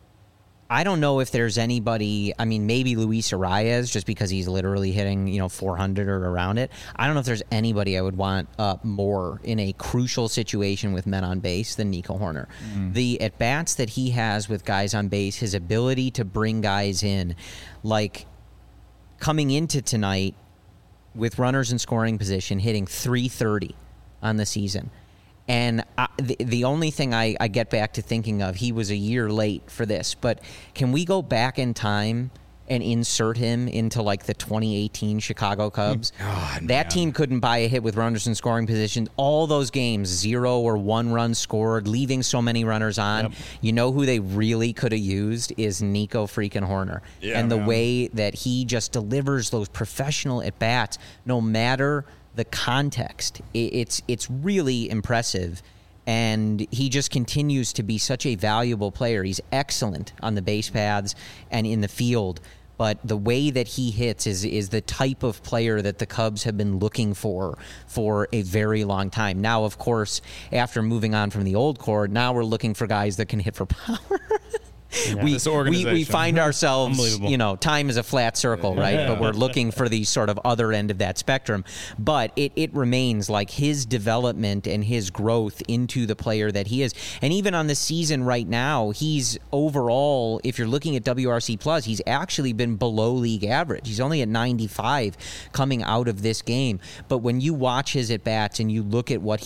I don't know if there's anybody, I mean, maybe Luis Arias, just because he's literally hitting, 400 or around it. I don't know if there's anybody I would want more in a crucial situation with men on base than Nico Hoerner. The at-bats that he has with guys on base, his ability to bring guys in, like coming into tonight with runners in scoring position, hitting .330 on the season. And the only thing I get back to thinking of, he was a year late for this, but can we go back in time and insert him into like the 2018 Chicago Cubs? That team couldn't buy a hit with runners in scoring position. All those games, 0 or 1 run scored, leaving so many runners on. You know who they really could have used is Nico freaking Hoerner. And the way that he just delivers those professional at-bats, no matter the context, it's really impressive, and he just continues to be such a valuable player. He's excellent on the base paths and in the field, but the way that he hits is the type of player that the Cubs have been looking for a very long time. Now, of course, after moving on from the old core, now we're looking for guys that can hit for power. We find ourselves, time is a flat circle, right? But we're looking for the sort of other end of that spectrum. But it remains like his development and his growth into the player that he is. And even on the season right now, he's overall, if you're looking at WRC+, he's actually been below league average. He's only at 95 coming out of this game. But when you watch his at-bats and you look at what he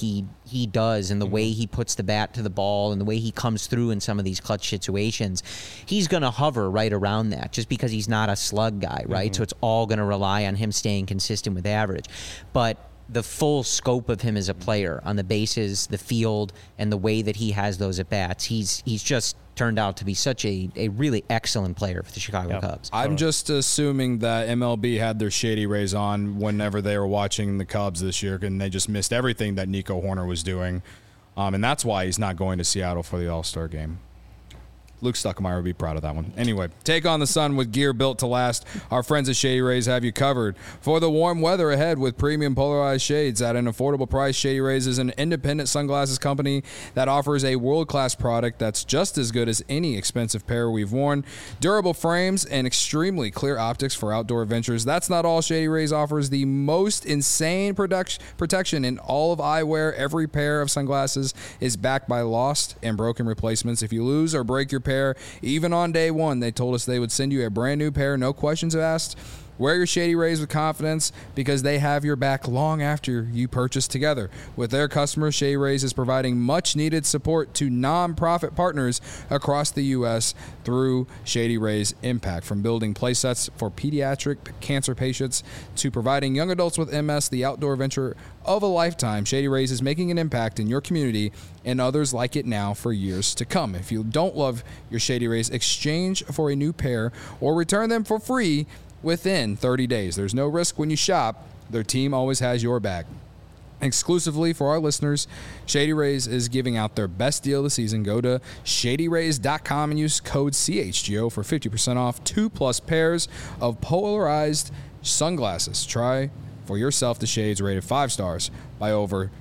he does and the way he puts the bat to the ball and the way he comes through in some of these clutch situations, he's going to hover right around that just because he's not a slug guy, right? So it's all going to rely on him staying consistent with average. But the full scope of him as a player on the bases, the field, and the way that he has those at-bats, he's just turned out to be such a really excellent player for the Chicago Cubs. I'm just assuming that MLB had their Shady Rays on whenever they were watching the Cubs this year, and they just missed everything that Nico Horner was doing. And that's why he's not going to Seattle for the All-Star game. Luke Stuckemeyer would be proud of that one. Anyway, take on the sun with gear built to last. Our friends at Shady Rays have you covered for the warm weather ahead with premium polarized shades at an affordable price. Shady Rays is an independent sunglasses company that offers a world-class product that's just as good as any expensive pair we've worn. Durable frames and extremely clear optics for outdoor adventures. That's not all. Shady Rays offers the most insane protection in all of eyewear. Every pair of sunglasses is backed by lost and broken replacements. If you lose or break your pair, even on day one, they told us they would send you a brand new pair, no questions asked. Wear your Shady Rays with confidence because they have your back long after you purchase together. With their customers, Shady Rays is providing much-needed support to nonprofit partners across the U.S. through Shady Rays Impact. From building playsets for pediatric cancer patients to providing young adults with MS the outdoor adventure of a lifetime, Shady Rays is making an impact in your community and others like it now for years to come. If you don't love your Shady Rays, exchange for a new pair or return them for free within 30 days. There's no risk when you shop. Their team always has your back. Exclusively for our listeners, Shady Rays is giving out their best deal of the season. Go to shadyrays.com and use code CHGO for 50% off 2+ pairs of polarized sunglasses. Try for yourself the shades rated 5 stars by over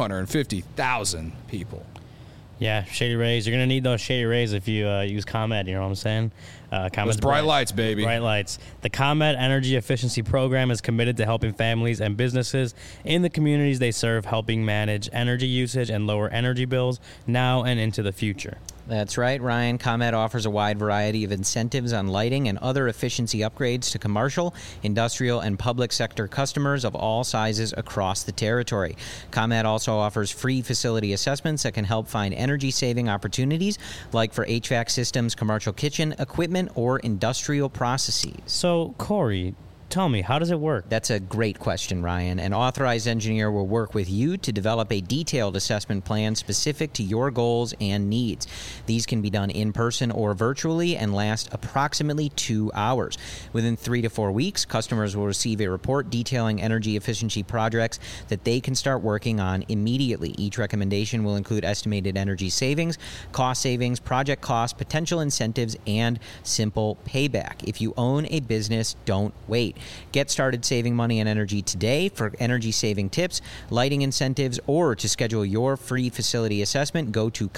250,000 people. Yeah, Shady Rays. You're going to need those Shady Rays if you use ComEd, you know what I'm saying? Those bright lights, baby. Bright lights. The ComEd Energy Efficiency Program is committed to helping families and businesses in the communities they serve, helping manage energy usage and lower energy bills now and into the future. That's right, Ryan. ComEd offers a wide variety of incentives on lighting and other efficiency upgrades to commercial, industrial, and public sector customers of all sizes across the territory. ComEd also offers free facility assessments that can help find energy-saving opportunities, like for HVAC systems, commercial kitchen equipment, or industrial processes. So, Corey, tell me, how does it work? That's a great question, Ryan. An authorized engineer will work with you to develop a detailed assessment plan specific to your goals and needs. These can be done in person or virtually and last approximately 2 hours. Within 3 to 4 weeks, customers will receive a report detailing energy efficiency projects that they can start working on immediately. Each recommendation will include estimated energy savings, project costs, potential incentives, and simple payback. If you own a business, don't wait. Get started saving money and energy today. For energy saving tips, lighting incentives, or to schedule your free facility assessment, go to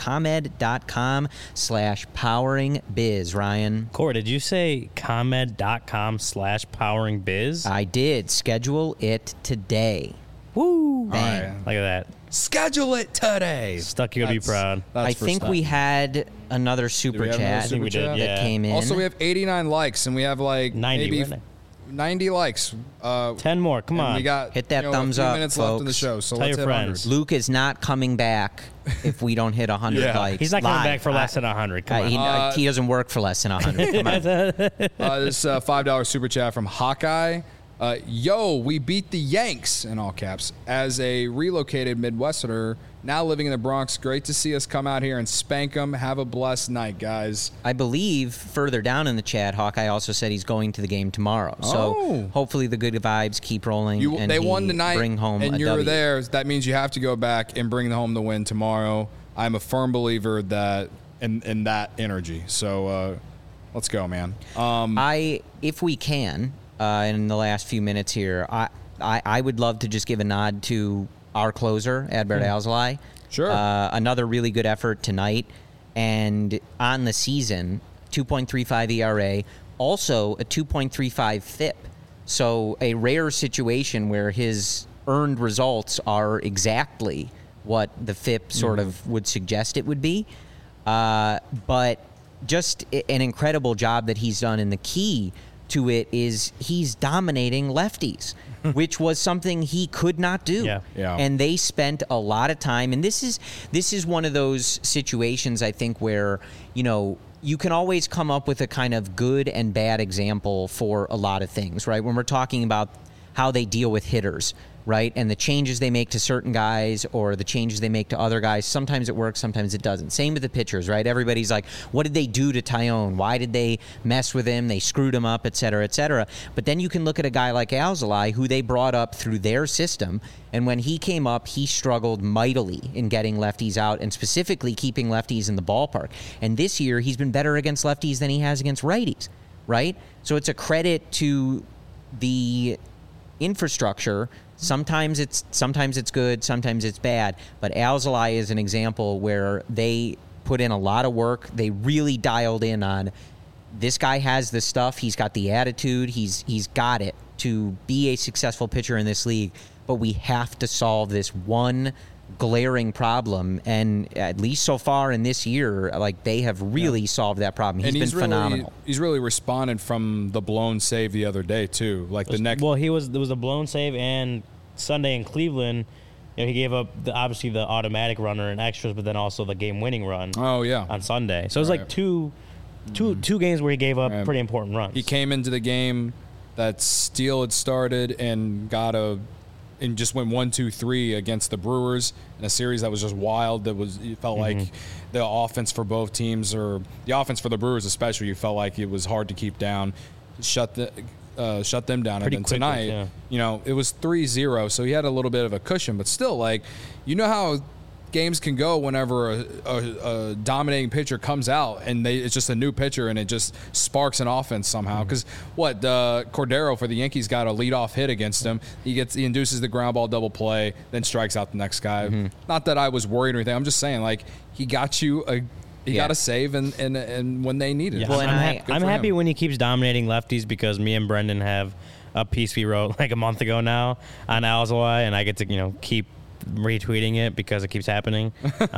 ComEd.com/poweringbiz. Ryan. Corey, did you say ComEd.com/poweringbiz? I did. Schedule it today. Woo! Bang. All right. Look at that. Schedule it today. Stucky would be proud. I think we had another super we have chat another super we did, chat? yeah. that came in. Also, we have 89 likes, and we have like 90, maybe weren't 90 likes. 10 more. Come and on. We got Hit that a thumbs few up, minutes left in the folks. show, so Tell let's your hit friends. 100. Luke is not coming back if we don't hit 100 Yeah. likes. He's not coming live. back for less than 100. Come on. He doesn't work for less than 100. Come on. This $5 super chat from Hawkeye. Yo, we beat the Yanks, in all caps, as a relocated Midwesterner now living in the Bronx. Great to see us come out here and spank them. Have a blessed night, guys. I believe further down in the chat, Hawkeye also said he's going to the game tomorrow. So Oh. hopefully the good vibes keep rolling. And They he won tonight, bring home and a you're W. there. That means you have to go back and bring home the win tomorrow. I'm a firm believer that in that energy. So let's go, man. If we can, in the last few minutes here, I would love to just give a nod to our closer, Adbert Alzolay. Sure. Another really good effort tonight. And on the season, 2.35 ERA, also a 2.35 FIP. So a rare situation where his earned results are exactly what the FIP sort of would suggest it would be. But just an incredible job that he's done in the key to it is he's dominating lefties, which was something he could not do. Yeah. And they spent a lot of time. And this is one of those situations, I think, where, you can always come up with a kind of good and bad example for a lot of things, right? When we're talking about how they deal with hitters, right? And the changes they make to certain guys or the changes they make to other guys. Sometimes it works, sometimes it doesn't. Same with the pitchers, right? Everybody's like, what did they do to Taillon? Why did they mess with him? They screwed him up, et cetera, et cetera. But then you can look at a guy like Alzolay, who they brought up through their system. And when he came up, he struggled mightily in getting lefties out and specifically keeping lefties in the ballpark. And this year, he's been better against lefties than he has against righties, right? So it's a credit to the infrastructure. Sometimes it's good, sometimes it's bad. But Alzolay is an example where they put in a lot of work. They really dialed in on this guy has the stuff. He's got the attitude. He's got it to be a successful pitcher in this league. But we have to solve this one glaring problem, and at least so far in this year, like they have really solved that problem. He's been phenomenal. He's really responded from the blown save the other day too. Like the next. Well, there was a blown save, and Sunday in Cleveland, he gave up obviously the automatic runner and extras, but then also the game-winning run. Oh yeah, on Sunday. So it was like two games where he gave up pretty important runs. He came into the game that Steele had started and just went 1-2-3 against the Brewers in a series that was just wild. It felt like the offense for both teams, or the offense for the Brewers especially, you felt like it was hard to keep down, shut them down. Pretty and then quickly, tonight, it was 3-0, so he had a little bit of a cushion, but still, how games can go whenever a dominating pitcher comes out and it's just a new pitcher and it just sparks an offense somehow. Because Cordero for the Yankees got a leadoff hit against him. He induces the ground ball double play, then strikes out the next guy. Not that I was worried or anything. I'm just saying, he got you he got a save and when they needed it. Well, I'm happy when he keeps dominating lefties, because me and Brendan have a piece we wrote like a month ago now on Alzolay, and I get to keep retweeting it because it keeps happening.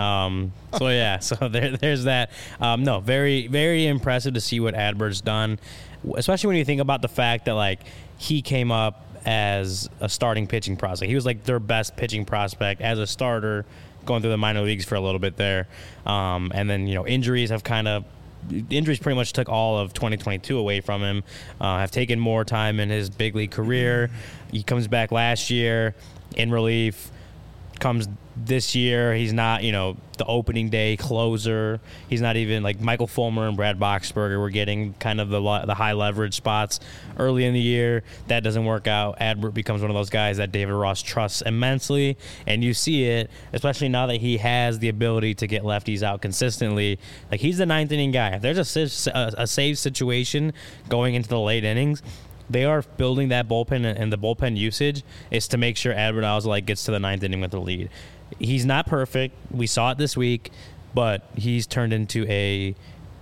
So there's that. No, very, very impressive to see what Adbert's done, especially when you think about the fact that he came up as a starting pitching prospect. He was their best pitching prospect as a starter going through the minor leagues for a little bit there. And then, injuries pretty much took all of 2022 away from him, have taken more time in his big league career. He comes back last year in relief, comes this year. He's not, the opening day closer. He's not even Michael Fulmer and Brad Boxberger were getting kind of the high leverage spots early in the year. That doesn't work out. Adbert becomes one of those guys that David Ross trusts immensely, and you see it, especially now that he has the ability to get lefties out consistently. He's the ninth inning guy. If there's a save situation going into the late innings, they are building that bullpen, and the bullpen usage is to make sure Adbert Alzolay gets to the ninth inning with the lead. He's not perfect. We saw it this week, but he's turned into a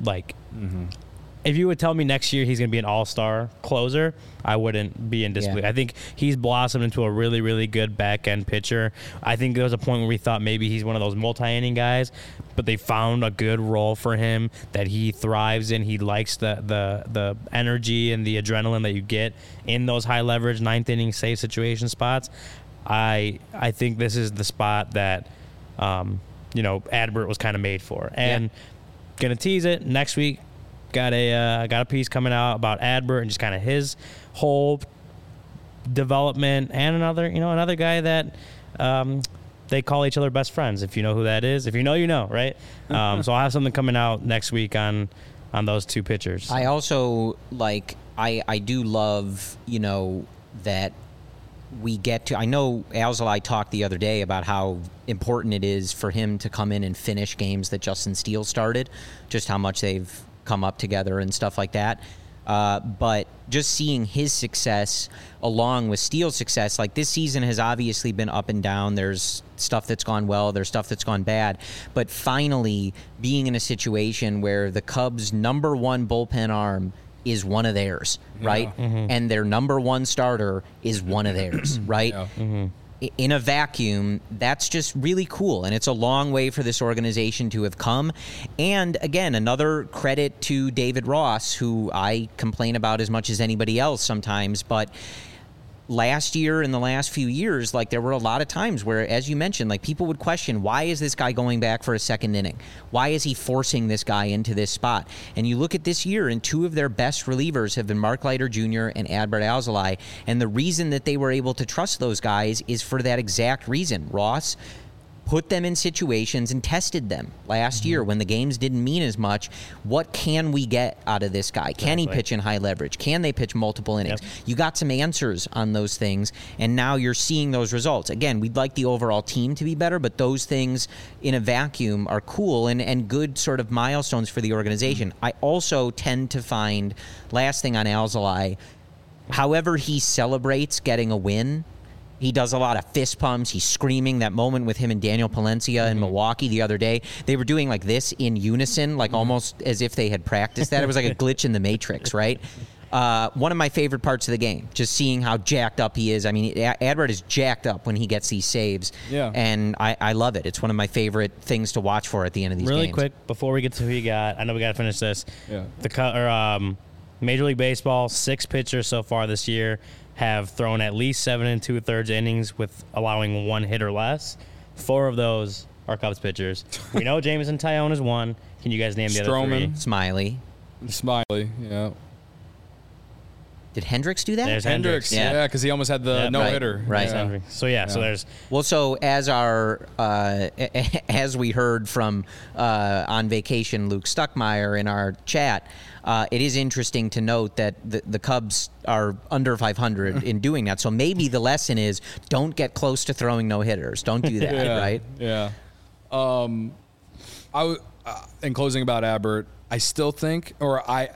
If you would tell me next year he's going to be an all-star closer, I wouldn't be in disbelief. I think he's blossomed into a really, really good back-end pitcher. I think there was a point where we thought maybe he's one of those multi-inning guys, but they found a good role for him that he thrives in. He likes the energy and the adrenaline that you get in those high-leverage ninth-inning save situation spots. I think this is the spot that Adbert was kind of made for. And gonna tease it next week. Got a piece coming out about Adbert and just kind of his whole development, and another guy that they call each other best friends. If you know who that is, if you know, you know, right? So I'll have something coming out next week on those two pitchers. I also I do love that we get to. I know Alzolay talked the other day about how important it is for him to come in and finish games that Justin Steele started, just how much they've come up together and stuff like that. But just seeing his success along with Steele's success, this season has obviously been up and down. There's stuff that's gone well, there's stuff that's gone bad. But finally being in a situation where the Cubs' number one bullpen arm is one of theirs, right? And their number one starter is one of theirs, right? in a vacuum, that's just really cool. And it's a long way for this organization to have come. And again, another credit to David Ross, who I complain about as much as anybody else sometimes. But last year and the last few years, like, there were a lot of times where, as you mentioned, like, people would question, why is this guy going back for a second inning? Why is he forcing this guy into this spot? And you look at this year, and two of their best relievers have been Mark Leiter Jr. and Adbert Alzolay. And the reason that they were able to trust those guys is for that exact reason. Ross put them in situations and tested them last year when the games didn't mean as much. What can we get out of this guy? Can he pitch in high leverage? Can they pitch multiple innings? Yep. You got some answers on those things, and now you're seeing those results. Again, we'd like the overall team to be better, but those things in a vacuum are cool and good sort of milestones for the organization. I also tend to find, last thing on Alzolay, however he celebrates getting a win, he does a lot of fist pumps. He's screaming. That moment with him and Daniel Palencia in Milwaukee the other day, they were doing like this in unison, like almost as if they had practiced that. It was like a glitch in the Matrix, right? One of my favorite parts of the game, just seeing how jacked up he is. I mean, Adbert is jacked up when he gets these saves, and I love it. It's one of my favorite things to watch for at the end of these games. Really quick, before we get to who you got, I know we got to finish this. Major League Baseball, 6 pitchers so far this year have thrown at least 7 2/3 innings with allowing 1 hit or less. 4 of those are Cubs pitchers. We know Jameson Taillon is one. Can you guys name the other 3? Smiley, yeah. Did Hendricks do that? There's Hendricks, Yeah. because he almost had the no-hitter. Right. Yeah. So there's... Well, so as as we heard from on vacation Luke Stuckmeyer in our chat, it is interesting to note that the Cubs are under 500 in doing that. So maybe the lesson is don't get close to throwing no-hitters. Don't do that, right? Yeah. In closing about Adbert, I still think, or I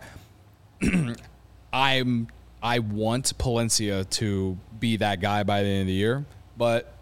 want Palencia to be that guy by the end of the year, but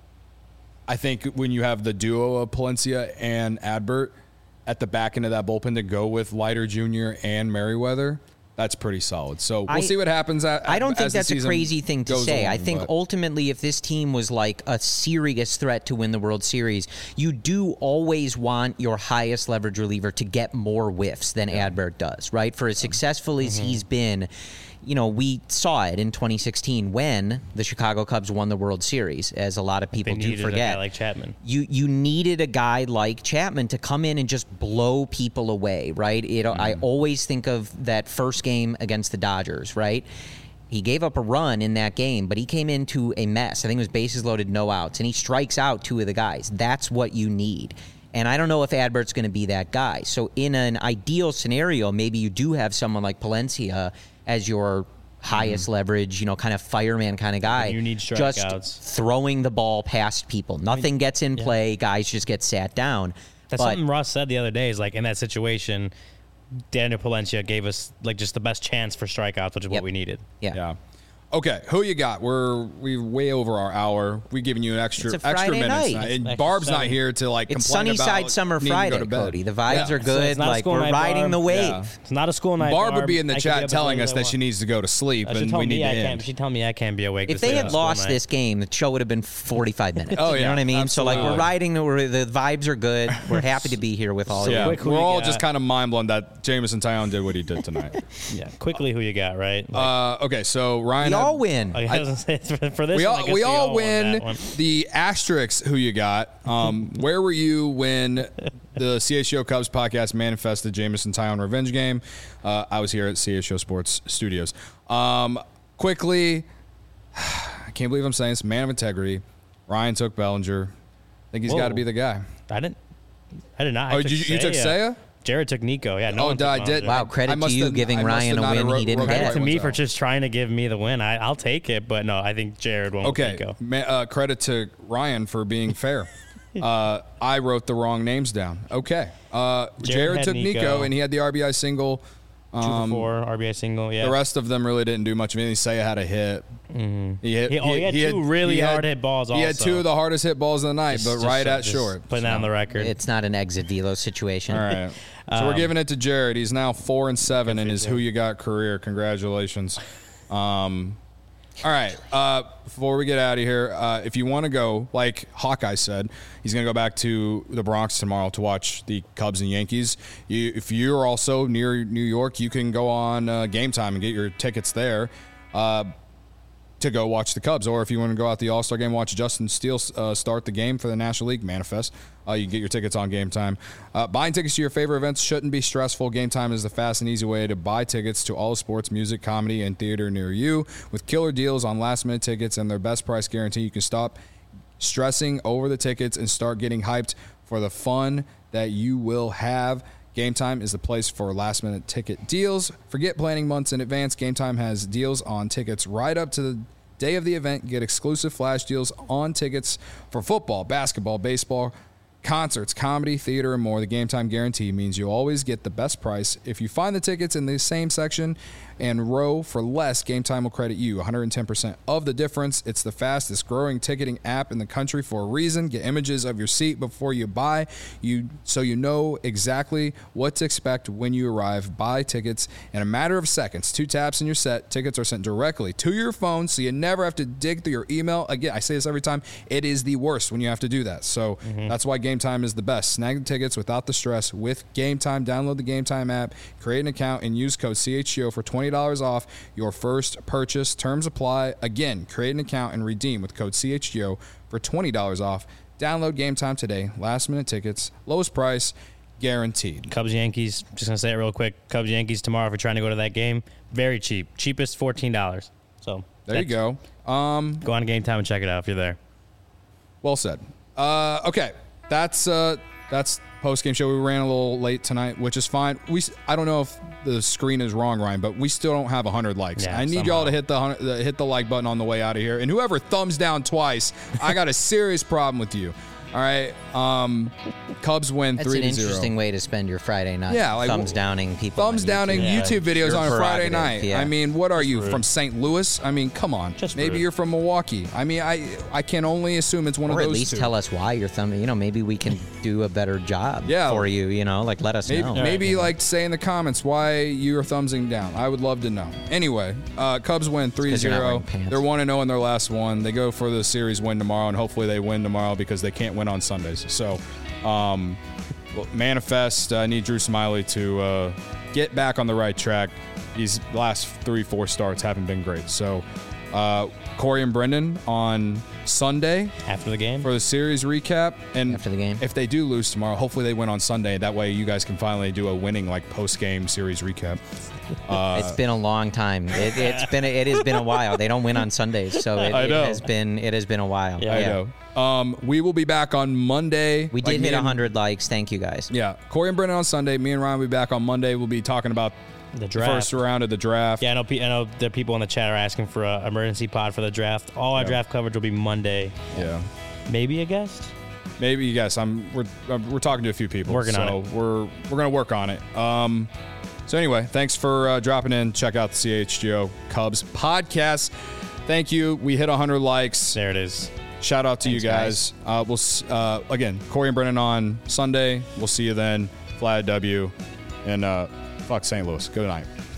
I think when you have the duo of Palencia and Adbert at the back end of that bullpen to go with Leiter Jr. and Merriweather, that's pretty solid. So we'll see what happens. I don't think that's a crazy thing to say. Along, I think ultimately, if this team was like a serious threat to win the World Series, you do always want your highest leverage reliever to get more whiffs than Adbert does, right? For as successful as he's been, you know, we saw it in 2016 when the Chicago Cubs won the World Series, as a lot of people do forget. A guy like Chapman. You needed a guy like Chapman to come in and just blow people away, right? I always think of that first game against the Dodgers, right? He gave up a run in that game, but he came into a mess. I think it was bases loaded, no outs, and he strikes out 2 of the guys. That's what you need. And I don't know if Adbert's going to be that guy. So in an ideal scenario, maybe you do have someone like Palencia as your highest leverage, kind of fireman kind of guy. You need strikeouts. Just throwing the ball past people. Nothing gets in play. Guys just get sat down. That's something Ross said the other day, is like, in that situation, Daniel Palencia gave us like just the best chance for strikeouts, which is what we needed. Yeah. Okay, who you got? We're way over our hour. We've given you an extra Friday minutes. night. And Barb's not here to It's complain about Sunnyside Summer needing to Friday, go to bed. Cody. The vibes are good. So like, we're riding the wave. Yeah. It's not a school night. Barb would be in the I can chat be up as telling late us as I that she want. needs to go to sleep, She and told we me need to I end. can't. She told me I can't be awake. If they had lost this game, the show would have been 45 minutes. Oh, You yeah, know what I mean? absolutely. So, like, we're riding, the vibes are good. We're happy to be here with all of Yeah, you. Quick, who we're you all got? just kind of mind blown that Jameson Taillon did what he did tonight. Yeah, quickly, who you got? Right? Okay, so Ryan, We all win. I was gonna say, for this, we one, I guess all won win that one. the asterisks. Who you got? Where were you when the CHGO Cubs podcast manifested Jameson Taillon revenge game? I was here at CHGO Sports Studios. Quickly, I can't believe I'm saying this. Man of integrity. Ryan took Bellinger. I think he's got to be the guy. I did not. You took Seiya? Jared took Nico. Yeah, no one took I did. Bellinger. Wow, credit to you giving Ryan a win he didn't Credit get. to me for just trying to give me the win. I'll take it, but no, I think Jared won't. Okay, Nico. credit to Ryan for being fair. I wrote the wrong names down. Okay. Jared had took Nico, and he had the RBI single. 2 for 4 RBI single. Yeah. The rest of them really didn't do much of anything. Seiya had a hit. Mm-hmm. He had two really hard hit balls. He had 2 of the hardest hit balls of the night, but right at just short. Putting that on the record. It's not an exit velo situation. All right. So we're giving it to Jared. He's now 4-7 in his Who You Got career. Congratulations. All right. Before we get out of here, if you want to go, like Hawkeye said, he's going to go back to the Bronx tomorrow to watch the Cubs and Yankees. If you're also near New York, you can go on Game Time and get your tickets there to go watch the Cubs. Or if you want to go out the All-Star game, watch Justin Steele start the game for the National League Manifest. You can get your tickets on Game Time. Buying tickets to your favorite events shouldn't be stressful. Game Time is the fast and easy way to buy tickets to all sports, music, comedy, and theater near you. With killer deals on last-minute tickets and their best price guarantee, you can stop stressing over the tickets and start getting hyped for the fun that you will have. Game Time is the place for last-minute ticket deals. Forget planning months in advance. Game Time has deals on tickets right up to the day of the event. Get exclusive flash deals on tickets for football, basketball, baseball, concerts, comedy, theater, and more. The Game Time guarantee means you always get the best price. If you find the tickets in the same section and row for less, Game Time will credit you 110% of the difference. It's the fastest growing ticketing app in the country for a reason. Get images of your seat before you buy, so you know exactly what to expect when you arrive. Buy tickets in a matter of seconds. 2 taps and you're set. Tickets are sent directly to your phone, so you never have to dig through your email. Again, I say this every time. It is the worst when you have to do that. So that's why Game Time is the best. Snag the tickets without the stress with Game Time. Download the Game Time app, create an account, and use code CHGO for $20 off your first purchase. Terms apply. Again, create an account and redeem with code CHGO for $20 off. Download Game Time today. Last minute tickets, lowest price, guaranteed. Cubs Yankees, just gonna say it real quick. Cubs Yankees tomorrow if you're trying to go to that game. Very cheap. Cheapest $14. So There you go. Go on Game Time and check it out if you're there. Well said. Okay. That's post-game show. We ran a little late tonight, which is fine. I don't know if the screen is wrong, Ryan, but we still don't have 100 likes. Yeah, I need y'all to hit the like button on the way out of here. And whoever thumbs down twice, I got a serious problem with you. All right. Cubs win 3-0. That's an interesting way to spend your Friday night. Yeah, like, thumbs downing people. Thumbs downing YouTube videos Your on a Friday prerogative, night. yeah. I mean, what are you, from St. Louis? I mean, come on. Just maybe rude. you're from Milwaukee. I mean, I can only assume it's one Or of at those least two. tell us why you're thumbing. Maybe we can do a better job Yeah. for you. Like let us know. Maybe like say in the comments why you're thumbsing down. I would love to know. Anyway, Cubs win 'cause you're not wearing 3-0. pants. They're 1-0 in their last one. They go for the series win tomorrow, and hopefully they win tomorrow because they can't win on Sundays. So, Manifest. I need Drew Smiley to get back on the right track. These last 3-4 starts haven't been great. So, Corey and Brendan on Sunday After the game? for the series recap. And After the game. if they do lose tomorrow, hopefully they win on Sunday. That way you guys can finally do a winning post-game series recap. It's been a long time. It has been a while. They don't win on Sundays, so I know. it has been a while. Yeah. I know. We will be back on Monday. We did hit 100 likes. Thank you guys. Yeah. Corey and Brendan on Sunday. Me and Ryan will be back on Monday. We'll be talking about The the draft. first round of the draft. Yeah, I know the people in the chat are asking for an emergency pod for the draft. All our draft coverage will be Monday. Yeah. Maybe a guest? Maybe, yes. We're talking to a few people. Working on it. We're going to work on it. So anyway, thanks for dropping in. Check out the CHGO Cubs podcast. Thank you. We hit 100 likes. There it is. Shout out to Thanks, you guys. Again, Corey and Brennan on Sunday. We'll see you then. Flat W. And fuck St. Louis. Good night.